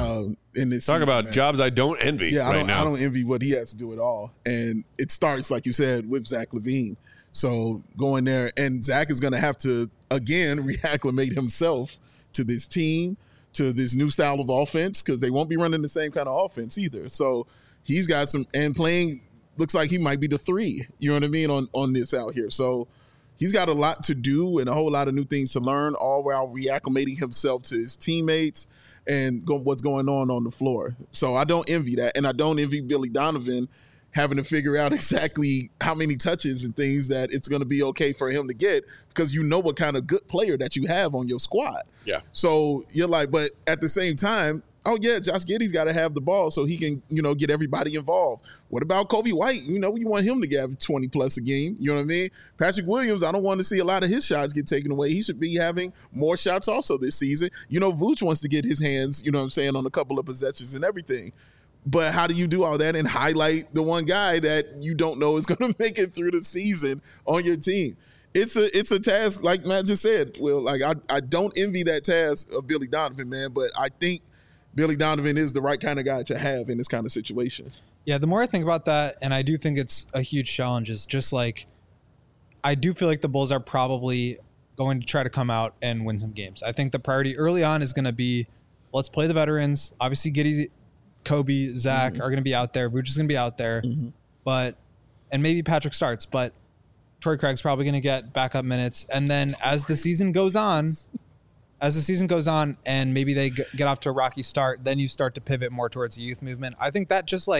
in this Talk season, about man. jobs I don't envy right now. I don't envy what he has to do at all. And it starts, like you said, with Zach LaVine. So going there, and Zach is going to have to, again, reacclimate himself to this team, to this new style of offense, because they won't be running the same kind of offense either. So he's got some, and playing, looks like he might be the 3, you know what I mean, on this out here. So he's got a lot to do and a whole lot of new things to learn, all while reacclimating himself to his teammates and what's going on the floor. So I don't envy that. And I don't envy Billy Donovan having to figure out exactly how many touches and things that it's going to be okay for him to get, because you know what kind of good player that you have on your squad. Yeah. So you're like, but at the same time, oh yeah, Josh Giddey's got to have the ball so he can, get everybody involved. What about Kobe White? You want him to get 20 plus a game. You know what I mean? Patrick Williams, I don't want to see a lot of his shots get taken away. He should be having more shots also this season. Vooch wants to get his hands, on a couple of possessions and everything. But how do you do all that and highlight the one guy that you don't know is going to make it through the season on your team? It's a task, like Matt just said. Well, like I don't envy that task of Billy Donovan, man, but I think Billy Donovan is the right kind of guy to have in this kind of situation. Yeah, the more I think about that, and I do think it's a huge challenge, is just like, I do feel like the Bulls are probably going to try to come out and win some games. I think the priority early on is going to be, let's play the veterans. Obviously, Giddey, Kobe, Zach are going to be out there. Vooch is going to be out there. And maybe Patrick starts, but Torrey Craig's probably going to get backup minutes. And then as the season goes on, and maybe they get off to a rocky start, then you start to pivot more towards the youth movement. I think that just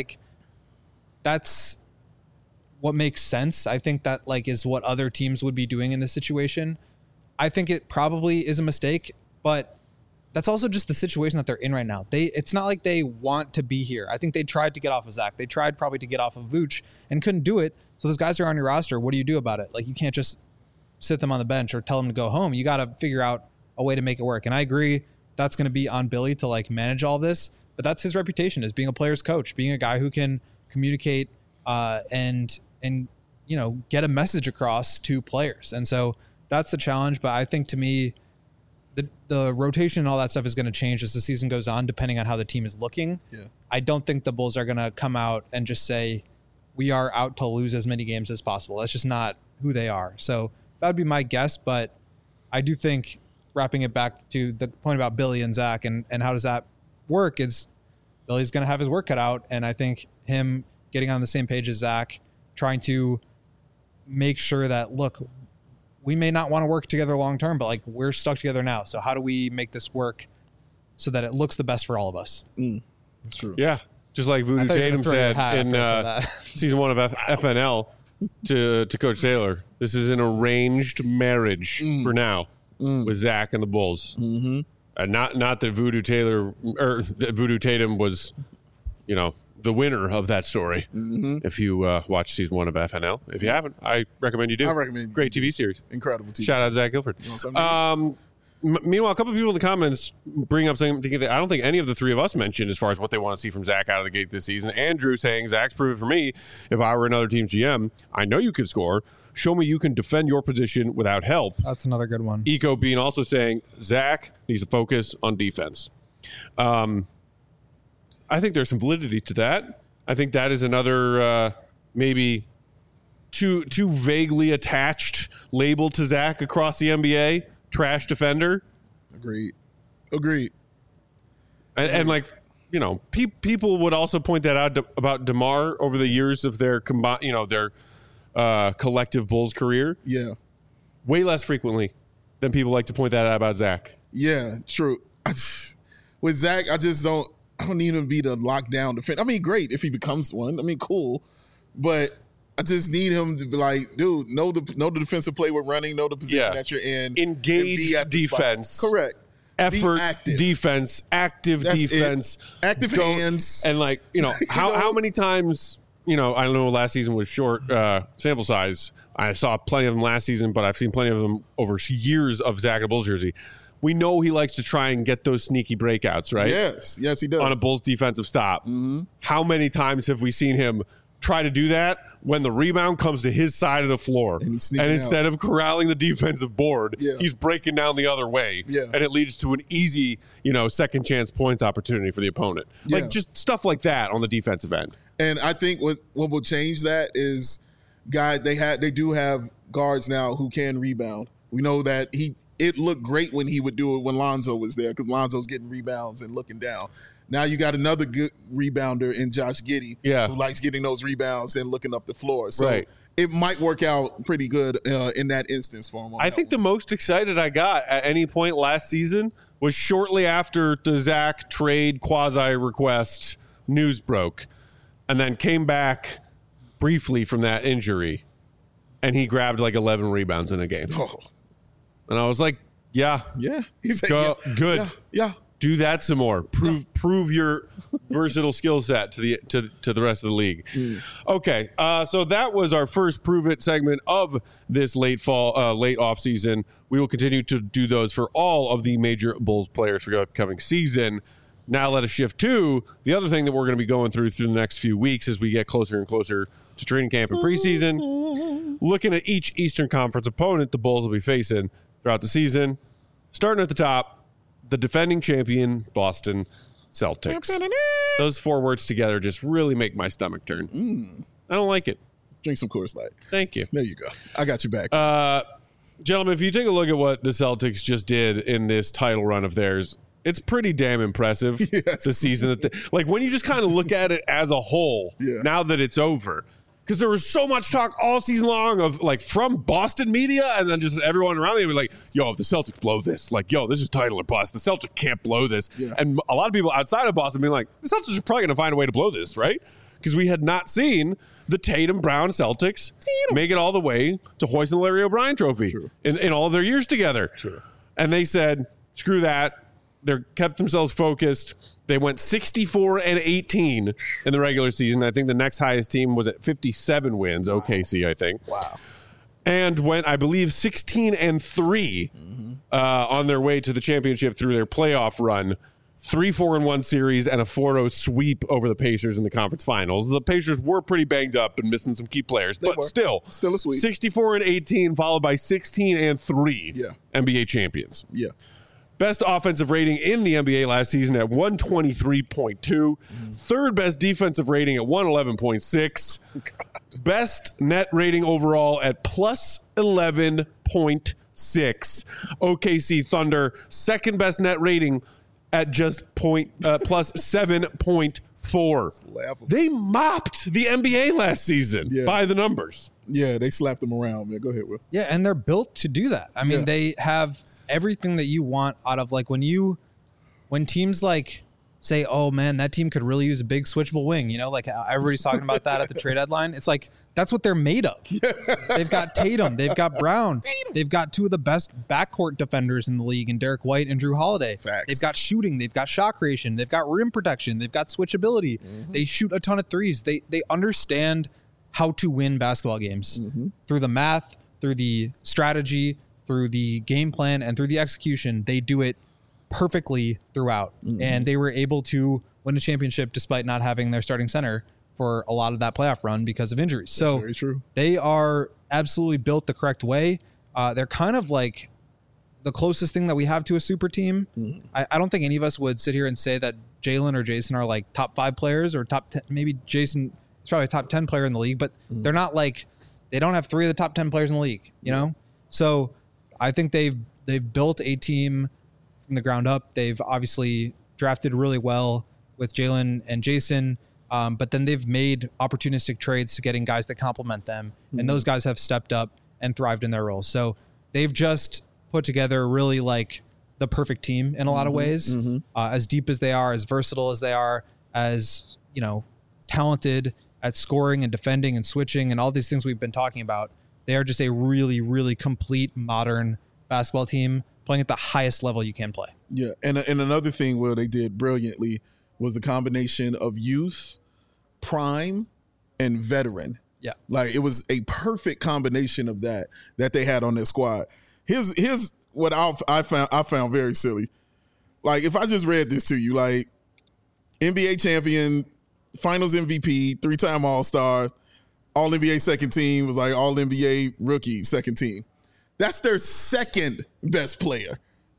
that's what makes sense. I think that is what other teams would be doing in this situation. I think it probably is a mistake, but that's also just the situation that they're in right now. It's not like they want to be here. I think they tried to get off of Zach. They tried probably to get off of Vooch and couldn't do it. So those guys are on your roster. What do you do about it? You can't just sit them on the bench or tell them to go home. You got to figure out a way to make it work. And I agree that's going to be on Billy to manage all this, but that's his reputation as being a player's coach, being a guy who can communicate and get a message across to players. And so that's the challenge. But I think, to me, the rotation and all that stuff is going to change as the season goes on, depending on how the team is looking. Yeah. I don't think the Bulls are going to come out and just say, we are out to lose as many games as possible. That's just not who they are. So that would be my guess. But I do think, wrapping it back to the point about Billy and Zach and how does that work, is Billy's going to have his work cut out. And I think him getting on the same page as Zach, trying to make sure that, look, we may not want to work together long term, but we're stuck together now. So how do we make this work so that it looks the best for all of us? That's true. Yeah. Just like Voodoo Tatum said in season 1 of FNL to Coach Taylor, this is an arranged marriage for now with Zach and the Bulls. Not that Voodoo Taylor or that Voodoo Tatum was, the winner of that story. If you watch season 1 of FNL, if you haven't, I recommend you do. I recommend. Great TV series. Incredible TV. Shout out to Zach Guilford. Meanwhile, a couple of people in the comments bring up something that I don't think any of the three of us mentioned as far as what they want to see from Zach out of the gate this season. Andrew saying, Zach's proven for me, if I were another team's GM, I know you can score. Show me you can defend your position without help. That's another good one. Eco Bean also saying, Zach needs to focus on defense. I think there's some validity to that. I think that is another maybe too vaguely attached label to Zach across the NBA. Trash defender. Agreed. And people would also point that out about DeMar over the years of their collective Bulls career. Yeah. Way less frequently than people like to point that out about Zach. Yeah, true. With Zach, I don't need him to be the lockdown defender. I mean, great if he becomes one. I mean, cool. But I just need him to be like, dude, know the defensive play we're running, know the position that you're in. Engage defense. Correct. Effort, defense, active defense. Active hands. And how many times, I know last season was short sample size. I saw plenty of them last season, but I've seen plenty of them over years of Zach in a Bulls jersey. We know he likes to try and get those sneaky breakouts, right? Yes, he does. On a Bulls defensive stop. Mm-hmm. How many times have we seen him try to do that when the rebound comes to his side of the floor? And instead of corralling the defensive board, he's breaking down the other way. Yeah. And it leads to an easy, second chance points opportunity for the opponent. Yeah. Like just stuff like that on the defensive end. And I think what will change that is guys, they do have guards now who can rebound. We know that it looked great when he would do it when Lonzo was there because Lonzo's getting rebounds and looking down. Now you got another good rebounder in Josh Giddey who likes getting those rebounds and looking up the floor. So it might work out pretty good in that instance for him. I think the most excited I got at any point last season was shortly after the Zach trade quasi-request news broke and then came back briefly from that injury and he grabbed like 11 rebounds in a game. Oh. And I was like, yeah. He's like, good. Yeah. Do that some more. Prove your versatile skill set to the rest of the league. Okay, so that was our first Prove It segment of this late off season. We will continue to do those for all of the major Bulls players for the upcoming season. Now let us shift to the other thing that we're going to be going through the next few weeks as we get closer and closer to training camp and preseason. Looking at each Eastern Conference opponent the Bulls will be facing throughout the season. Starting at the top, the defending champion Boston Celtics. Those four words together just really make my stomach turn. I don't like it. Drink some Coors Light. Thank you. There you go. I got you back. Gentlemen, if you take a look at what the Celtics just did in this title run of theirs, it's pretty damn impressive. The season that when you just kind of look at it as a whole, now that it's over. Because there was so much talk all season long of from Boston media and then just everyone around them be like, yo, if the Celtics blow this, this is title or bust. The Celtics can't blow this. Yeah. And a lot of people outside of Boston being like, the Celtics are probably going to find a way to blow this, right? Because we had not seen the Tatum Brown Celtics make it all the way to hoisting the Larry O'Brien trophy in all of their years together. And they said, screw that. They kept themselves focused. They went 64-18 in the regular season. I think the next highest team was at 57 wins, OKC, I think. Wow. And went, I believe, 16-3 on their way to the championship through their playoff run. 3-4-1 series and a 4-0 sweep over the Pacers in the conference finals. The Pacers were pretty banged up and missing some key players, but still a sweep. 64-18 followed by 16-3 NBA champions. Yeah. Best offensive rating in the NBA last season at 123.2. Third best defensive rating at 111.6. Best net rating overall at plus 11.6. OKC Thunder, second best net rating at just plus 7.4. They mopped the NBA last season by the numbers. Yeah, they slapped them around, man. Go ahead, Will. Yeah, and they're built to do that. I mean, they have everything that you want out of when teams say, oh man, that team could really use a big switchable wing, everybody's talking about that at the trade deadline. It's that's what they're made of. They've got Tatum, they've got Brown, they've got two of the best backcourt defenders in the league in Derek White and Drew Holiday. Facts. They've got shooting, they've got shot creation, they've got rim protection, they've got switchability. They shoot a ton of threes. They understand how to win basketball games through the math, through the strategy, through the game plan, and through the execution. They do it perfectly throughout. And they were able to win a championship despite not having their starting center for a lot of that playoff run because of injuries. So very true. They are absolutely built the correct way. They're kind of like the closest thing that we have to a super team. I don't think any of us would sit here and say that Jalen or Jason are top 5 players or top 10. Maybe Jason is probably a top 10 player in the league, but they're not they don't have 3 of the top 10 players in the league, you know? So I think they've built a team from the ground up. They've obviously drafted really well with Jalen and Jason. But then they've made opportunistic trades to getting guys that complement them. And those guys have stepped up and thrived in their roles. So they've just put together really like the perfect team in a lot of ways, as deep as they are, as versatile as they are, as, you know, talented at scoring and defending and switching and all these things we've been talking about. They are just a really, really complete modern basketball team playing at the highest level you can play. Yeah. And another thing, Will, they did brilliantly was the combination of youth, prime, and veteran. Yeah. Like, it was a perfect combination of that they had on their squad. Here's what I found very silly. Like, if I just read this to you, like, NBA champion, finals MVP, 3-time All-Star, All-NBA second team, was like All-NBA rookie second team. That's their second best player.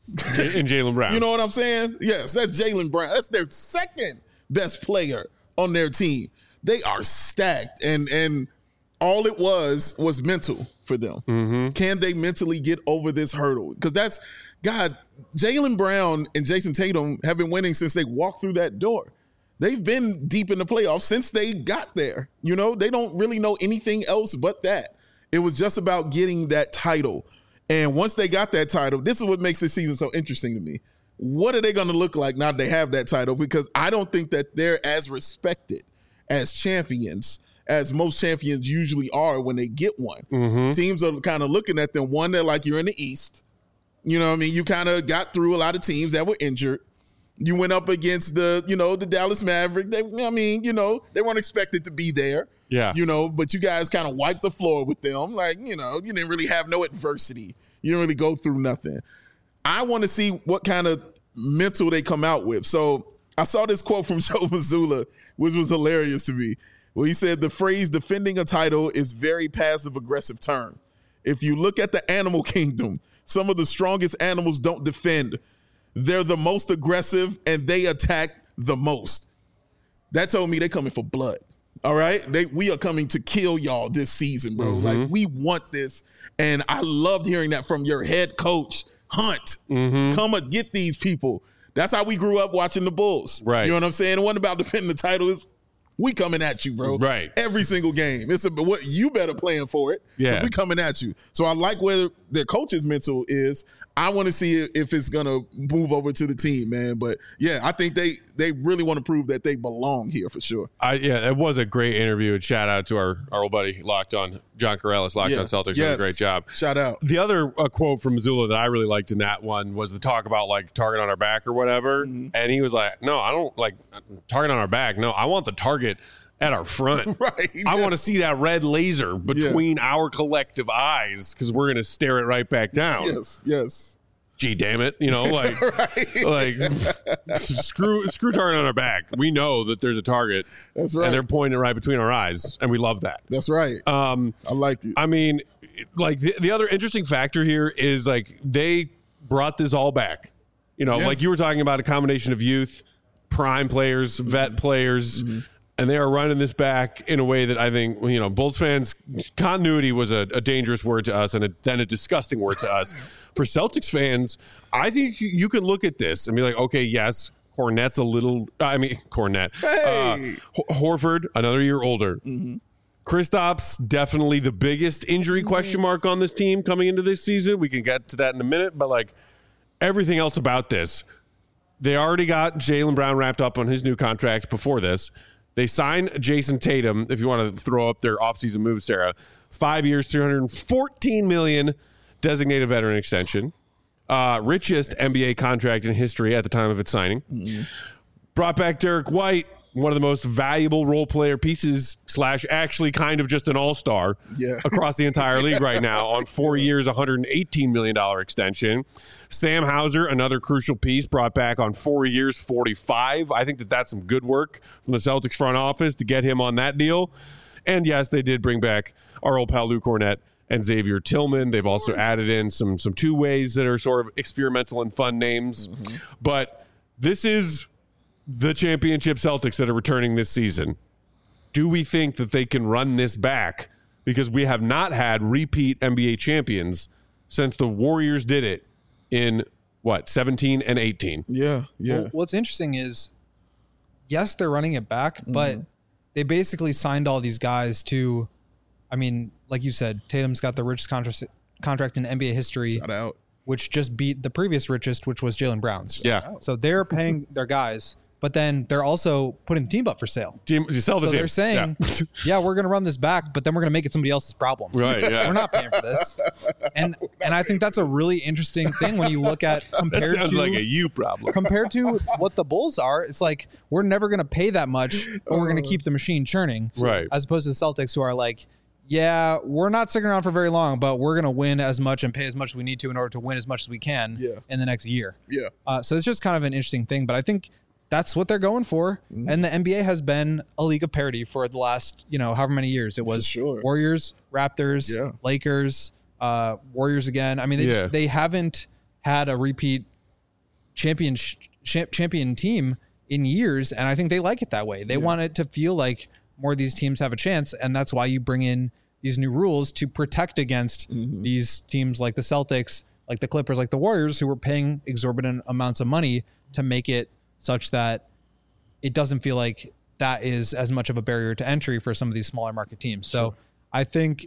And Jaylen Brown. You know what I'm saying? Yes, that's Jaylen Brown. That's their second best player on their team. They are stacked, and all it was mental for them. Can they mentally get over this hurdle? Because that's, God, Jaylen Brown and Jason Tatum have been winning since they walked through that door. They've been deep in the playoffs since they got there. You know, they don't really know anything else but that. It was just about getting that title. And once they got that title, this is what makes this season so interesting to me. What are they going to look like now that they have that title? Because I don't think that they're as respected as champions as most champions usually are when they get one. Teams are kind of looking at them. One, they're like, you're in the East. You know what I mean? You kind of got through a lot of teams that were injured. You went up against the Dallas Mavericks. They weren't expected to be there. Yeah. But you guys kind of wiped the floor with them. Like, you didn't really have no adversity. You didn't really go through nothing. I want to see what kind of mental they come out with. So I saw this quote from Joe Mazzulla, which was hilarious to me. Well, he said the phrase defending a title is very passive-aggressive term. If you look at the animal kingdom, some of the strongest animals don't defend. They're the most aggressive, and they attack the most. That told me they're coming for blood. All right? We are coming to kill y'all this season, bro. Like, we want this. And I loved hearing that from your head coach, Hunt. Come and get these people. That's how we grew up watching the Bulls. Right. You know what I'm saying? It wasn't about defending the title. It's we coming at you, bro. Right. Every single game. It's what you better plan for it. Yeah. We coming at you. So I like where their coach's mental is. I want to see if it's going to move over to the team, man. But, yeah, I think they really want to prove that they belong here for sure. It was a great interview. And shout out to our old buddy Locked On, John Corrales, Locked On Celtics. Did a great job. Shout out. The other quote from Mazzulla that I really liked in that one was the talk about, like, target on our back or whatever. And he was like, no, I don't like target on our back. No, I want the target at our front. Right. I want to see that red laser between our collective eyes because we're going to stare it right back down. Yes. Gee, damn it. Like, right. like screw target on our back. We know that there's a target. That's right. And they're pointing right between our eyes. And we love that. That's right. I like it. I mean, like the other interesting factor here is like they brought this all back. Like you were talking about a combination of youth, prime players, vet players, and they are running this back in a way that I think, Bulls fans, continuity was a dangerous word to us and then a disgusting word to us. For Celtics fans, I think you can look at this and be like, okay, yes, Kornette. Hey. Horford, another year older. Kristaps, definitely the biggest injury question mark on this team coming into this season. We can get to that in a minute, but like everything else about this, they already got Jaylen Brown wrapped up on his new contract before this. They signed Jason Tatum, if you want to throw up their offseason moves, Sarah. 5 years, $314 million, designated veteran extension. Richest NBA contract in history at the time of its signing. Brought back Derek White, one of the most valuable role player pieces / actually kind of just an all-star across the entire league right now on 4 years, $118 million extension. Sam Hauser, another crucial piece, brought back on 4 years, $45. I think that's some good work from the Celtics front office to get him on that deal. And yes, they did bring back our old pal Lou Kornette and Xavier Tillman. They've also added in some two-ways that are sort of experimental and fun names. But this is the championship Celtics that are returning this season. Do we think that they can run this back? Because we have not had repeat NBA champions since the Warriors did it in 17 and 18. Yeah. Well, what's interesting is yes, they're running it back, but they basically signed all these guys to, I mean, like you said, Tatum's got the richest contract in NBA history. Shout out. Which just beat the previous richest, which was Jaylen Brown's. Yeah. So they're paying their guys, but then they're also putting the team up for sale. You sell the So team. they're saying, yeah, we're going to run this back, but then we're going to make it somebody else's problem. Right, yeah. We're not paying for this. And I think that's a really interesting thing when you look at That compared sounds to like a you problem. compared to what the Bulls are. It's like, we're never going to pay that much, but we're going to keep the machine churning. Right. As opposed to the Celtics, who are like, yeah, we're not sticking around for very long, but we're going to win as much and pay as much as we need to in order to win as much as we can in the next year. Yeah. So it's just kind of an interesting thing, but I think that's what they're going for. And the NBA has been a league of parity for the last, however many years. It was sure. Warriors, Raptors, Lakers, Warriors again. I mean, they haven't had a repeat champion team in years, and I think they like it that way. They want it to feel like more of these teams have a chance, and that's why you bring in these new rules to protect against these teams like the Celtics, like the Clippers, like the Warriors, who were paying exorbitant amounts of money to make it such that it doesn't feel like that is as much of a barrier to entry for some of these smaller market teams. So I think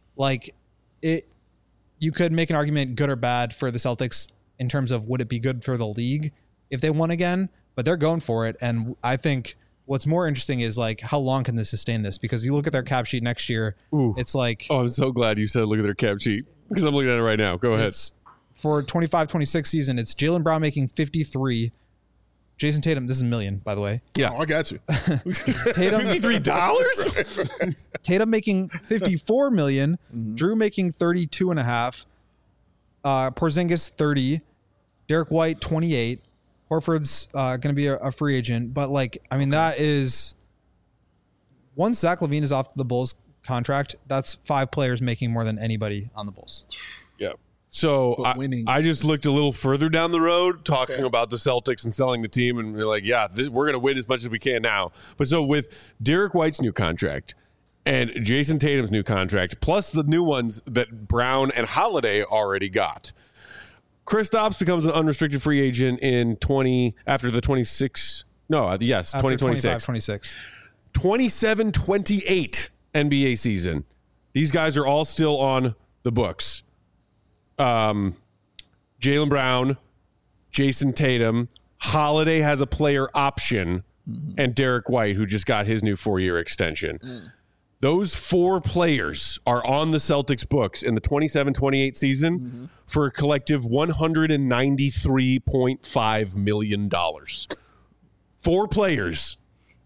you could make an argument good or bad for the Celtics in terms of would it be good for the league if they won again, but they're going for it. And I think what's more interesting is like, how long can they sustain this? Because you look at their cap sheet next year, it's like, oh, I'm so glad you said look at their cap sheet, because I'm looking at it right now. Go ahead. For 25-26 season, it's Jaylen Brown making 53. Jason Tatum, this is $1 million, by the way. Yeah. Oh, I got you. Tatum, $53? Tatum making $54 million. Drew making 32.5. Porzingis 30. Derek White 28. Horford's going to be a free agent, but that is, once Zach LaVine is off the Bulls contract, that's 5 players making more than anybody on the Bulls. Yeah. So I just looked a little further down the road talking about the Celtics and selling the team, and we're like, we're going to win as much as we can now. But so with Derek White's new contract and Jason Tatum's new contract, plus the new ones that Brown and Holiday already got, Kristaps becomes an unrestricted free agent after the 26. No, yes, 2026. 26. 27-28 NBA season. These guys are all still on the books. Jaylen Brown, Jason Tatum, Holiday has a player option, and Derek White, who just got his new 4-year extension. Those 4 players are on the Celtics books in the 27-28 season for a collective $193.5 million. 4 players,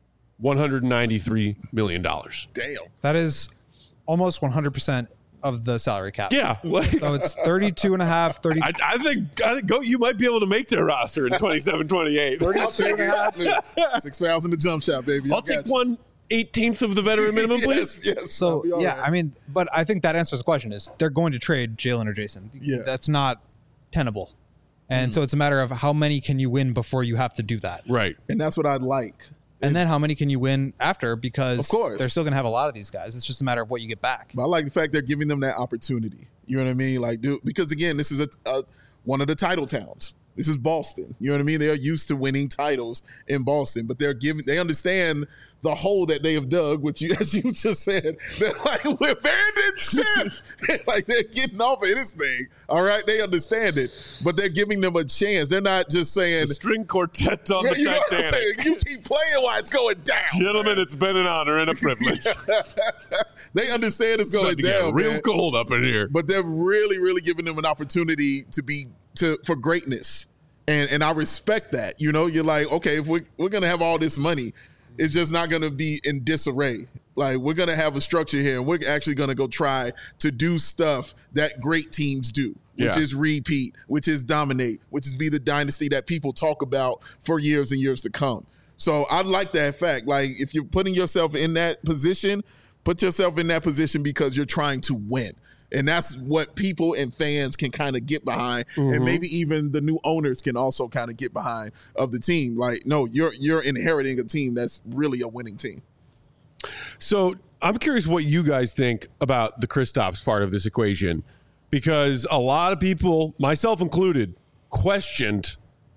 $193 million. Damn. That is almost 100% of the salary cap. Yeah. So it's 32.5, 30. I think you might be able to make their roster in 27-28. I'll take it. 6 fouls in the jump shot, baby. I'll take 1/18 of the veteran minimum, please. Yes. So, but I think that answers the question is they're going to trade Jaylen or Jason. Yeah. That's not tenable. And so it's a matter of how many can you win before you have to do that. Right. And that's what I'd like. And then how many can you win after? Because Of course. they're still going to have a lot of these guys. It's just a matter of what you get back. But I like the fact they're giving them that opportunity. You know what I mean? Because again, this is one of the title towns. This is Boston. You know what I mean? They're used to winning titles in Boston, but they understand the hole that they have dug, which as you just said, they're like, we're abandoned ships. They're getting off of this thing. All right. They understand it, but they're giving them a chance. They're not just saying The string quartet on the you know what I'm Titanic. saying? You keep playing while it's going down. Gentlemen, it's been an honor and a privilege. They understand it's going About to get down. real man. cold up in here. But they're really, really giving them an opportunity for greatness. And I respect that. You know, you're like, okay, if we're going to have all this money, it's just not going to be in disarray. Like, we're going to have a structure here, and we're actually going to go try to do stuff that great teams do, which is repeat, which is dominate, which is be the dynasty that people talk about for years and years to come. So I like that fact. Like, if you're putting yourself in that position, put yourself in that position because you're trying to win. And that's what people and fans can kind of get behind. And maybe even the new owners can also kind of get behind of the team. Like, no, you're inheriting a team that's really a winning team. So I'm curious what you guys think about the Kristaps part of this equation, because a lot of people, myself included, questioned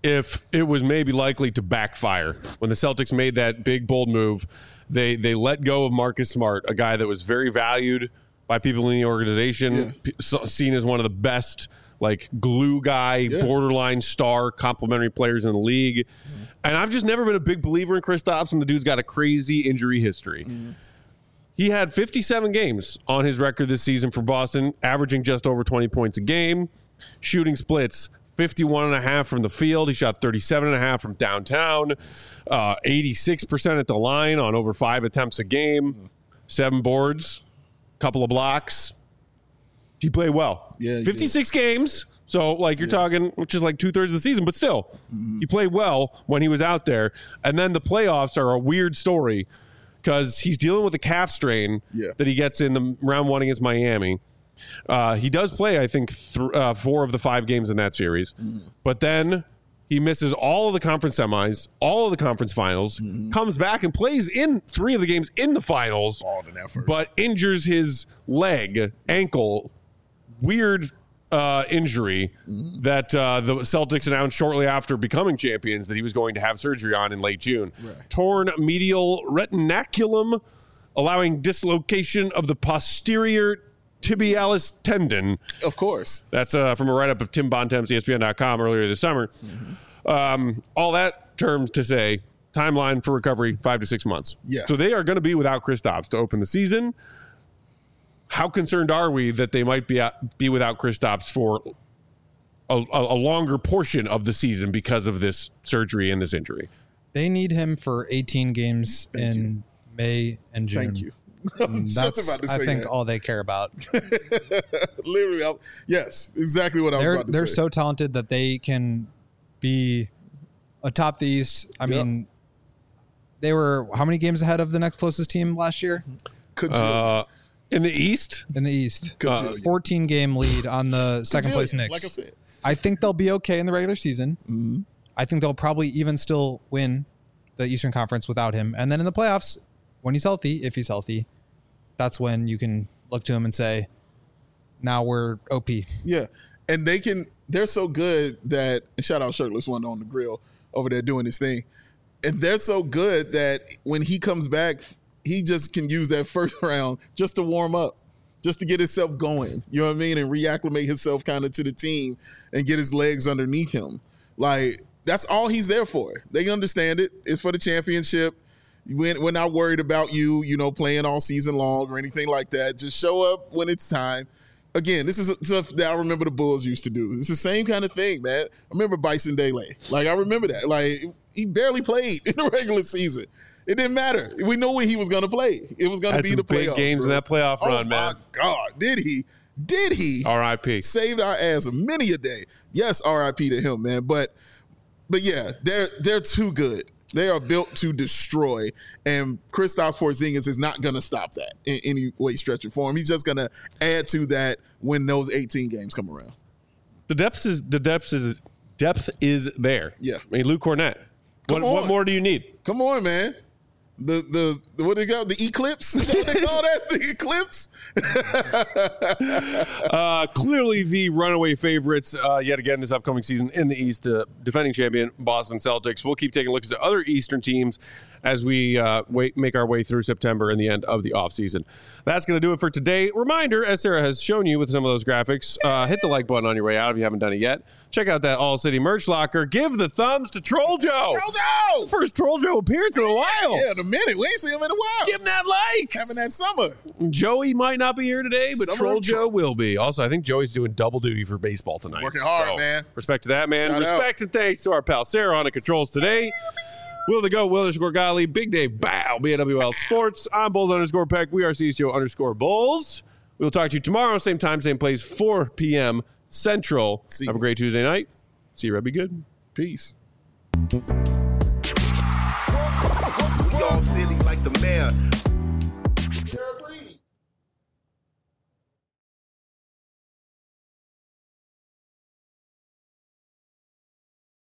if it was maybe likely to backfire. When the Celtics made that big, bold move, they let go of Marcus Smart, a guy that was very valued by people in the organization, seen as one of the best, like, glue guy, borderline star, complimentary players in the league. And I've just never been a big believer in Kristaps, and the dude's got a crazy injury history. He had 57 games on his record this season for Boston, averaging just over 20 points a game, shooting splits 51.5 from the field. He shot 37.5 from downtown, 86% at the line on over 5 attempts a game, 7 boards, couple of blocks. He played well. 56 games. So, like, you're talking, which is like 2/3 of the season, but still, he played well when he was out there. And then the playoffs are a weird story because he's dealing with a calf strain that he gets in the round 1 against Miami. He does play, I think, 4 of the 5 games in that series. But then he misses all of the conference semis, all of the conference finals, comes back and plays in 3 of the games in the finals, but injures his ankle, weird injury that the Celtics announced shortly after becoming champions that he was going to have surgery on in late June. Torn medial retinaculum, allowing dislocation of the posterior tibialis tendon. Of course. That's from a write-up of Tim Bontemps, ESPN.com, earlier this summer. All that terms to say, timeline for recovery, 5 to 6 months. So they are going to be without Kristaps to open the season. How concerned are we that they might be without Kristaps for a longer portion of the season because of this surgery and this injury? They need him for 18 games in May and June. Thank you. That's, I think, all they care about. Literally, yes, exactly what I was about to say. They're so talented that they can be atop the East. I mean, they were how many games ahead of the next closest team last year? In the East? In the East. 14-game lead on the second-place Knicks. Like I said. I think they'll be okay in the regular season. I think they'll probably even still win the Eastern Conference without him. And then in the playoffs, when he's healthy, if he's healthy, that's when you can look to him and say, now we're OP. Yeah. And they're so good that, and shout out Shirtless One on the grill over there doing his thing. And they're so good that when he comes back, he just can use that first round just to warm up, just to get himself going. You know what I mean? And reacclimate himself kind of to the team and get his legs underneath him. Like, that's all he's there for. They understand it. It's for the championship. We're not worried about you, playing all season long or anything like that. Just show up when it's time. Again, this is stuff that I remember the Bulls used to do. It's the same kind of thing, man. I remember Bison Dele. Like, I remember that. Like, he barely played in the regular season. It didn't matter. We knew when he was going to play. It was going to be the playoffs. Big games in that playoff run, man. Oh, my God. Did he? Did he? R.I.P. Saved our ass many a day. Yes, R.I.P. to him, man. But yeah, they're too good. They are built to destroy, and Kristaps Porzingis is not going to stop that in any way, stretch, or form. He's just going to add to that when those 18 games come around. The depth is there. Yeah. I mean, Luke Cornett. What more do you need? Come on, man. The what they call the eclipse? Is that what they call that? The eclipse? Clearly the runaway favorites yet again this upcoming season in the East, the defending champion Boston Celtics. We'll keep taking a look at other Eastern teams as we make our way through September and the end of the offseason. That's going to do it for today. Reminder, as Sarah has shown you with some of those graphics, hit the like button on your way out if you haven't done it yet. Check out that All City merch locker. Give the thumbs to Troll Joe. Troll Joe! It's the first Troll Joe appearance in a while. Yeah, in a minute. We ain't seen him in a while. Give him that likes. Having that summer. Joey might not be here today, but Summer Troll of Joe will be. Also, I think Joey's doing double duty for baseball tonight. Working hard, man. Respect to that, man. Shout Respect and thanks to our pal Sarah on the controls today. Will the Go, Will_Golly, Big Dave, Bow, BWL Sports. I'm Bulls_Peck. We are CSGO_Bulls. We'll talk to you tomorrow, same time, same place, 4 p.m. Central. Have a great Tuesday night. See you, Red. Be good. Peace. We all silly like the mayor.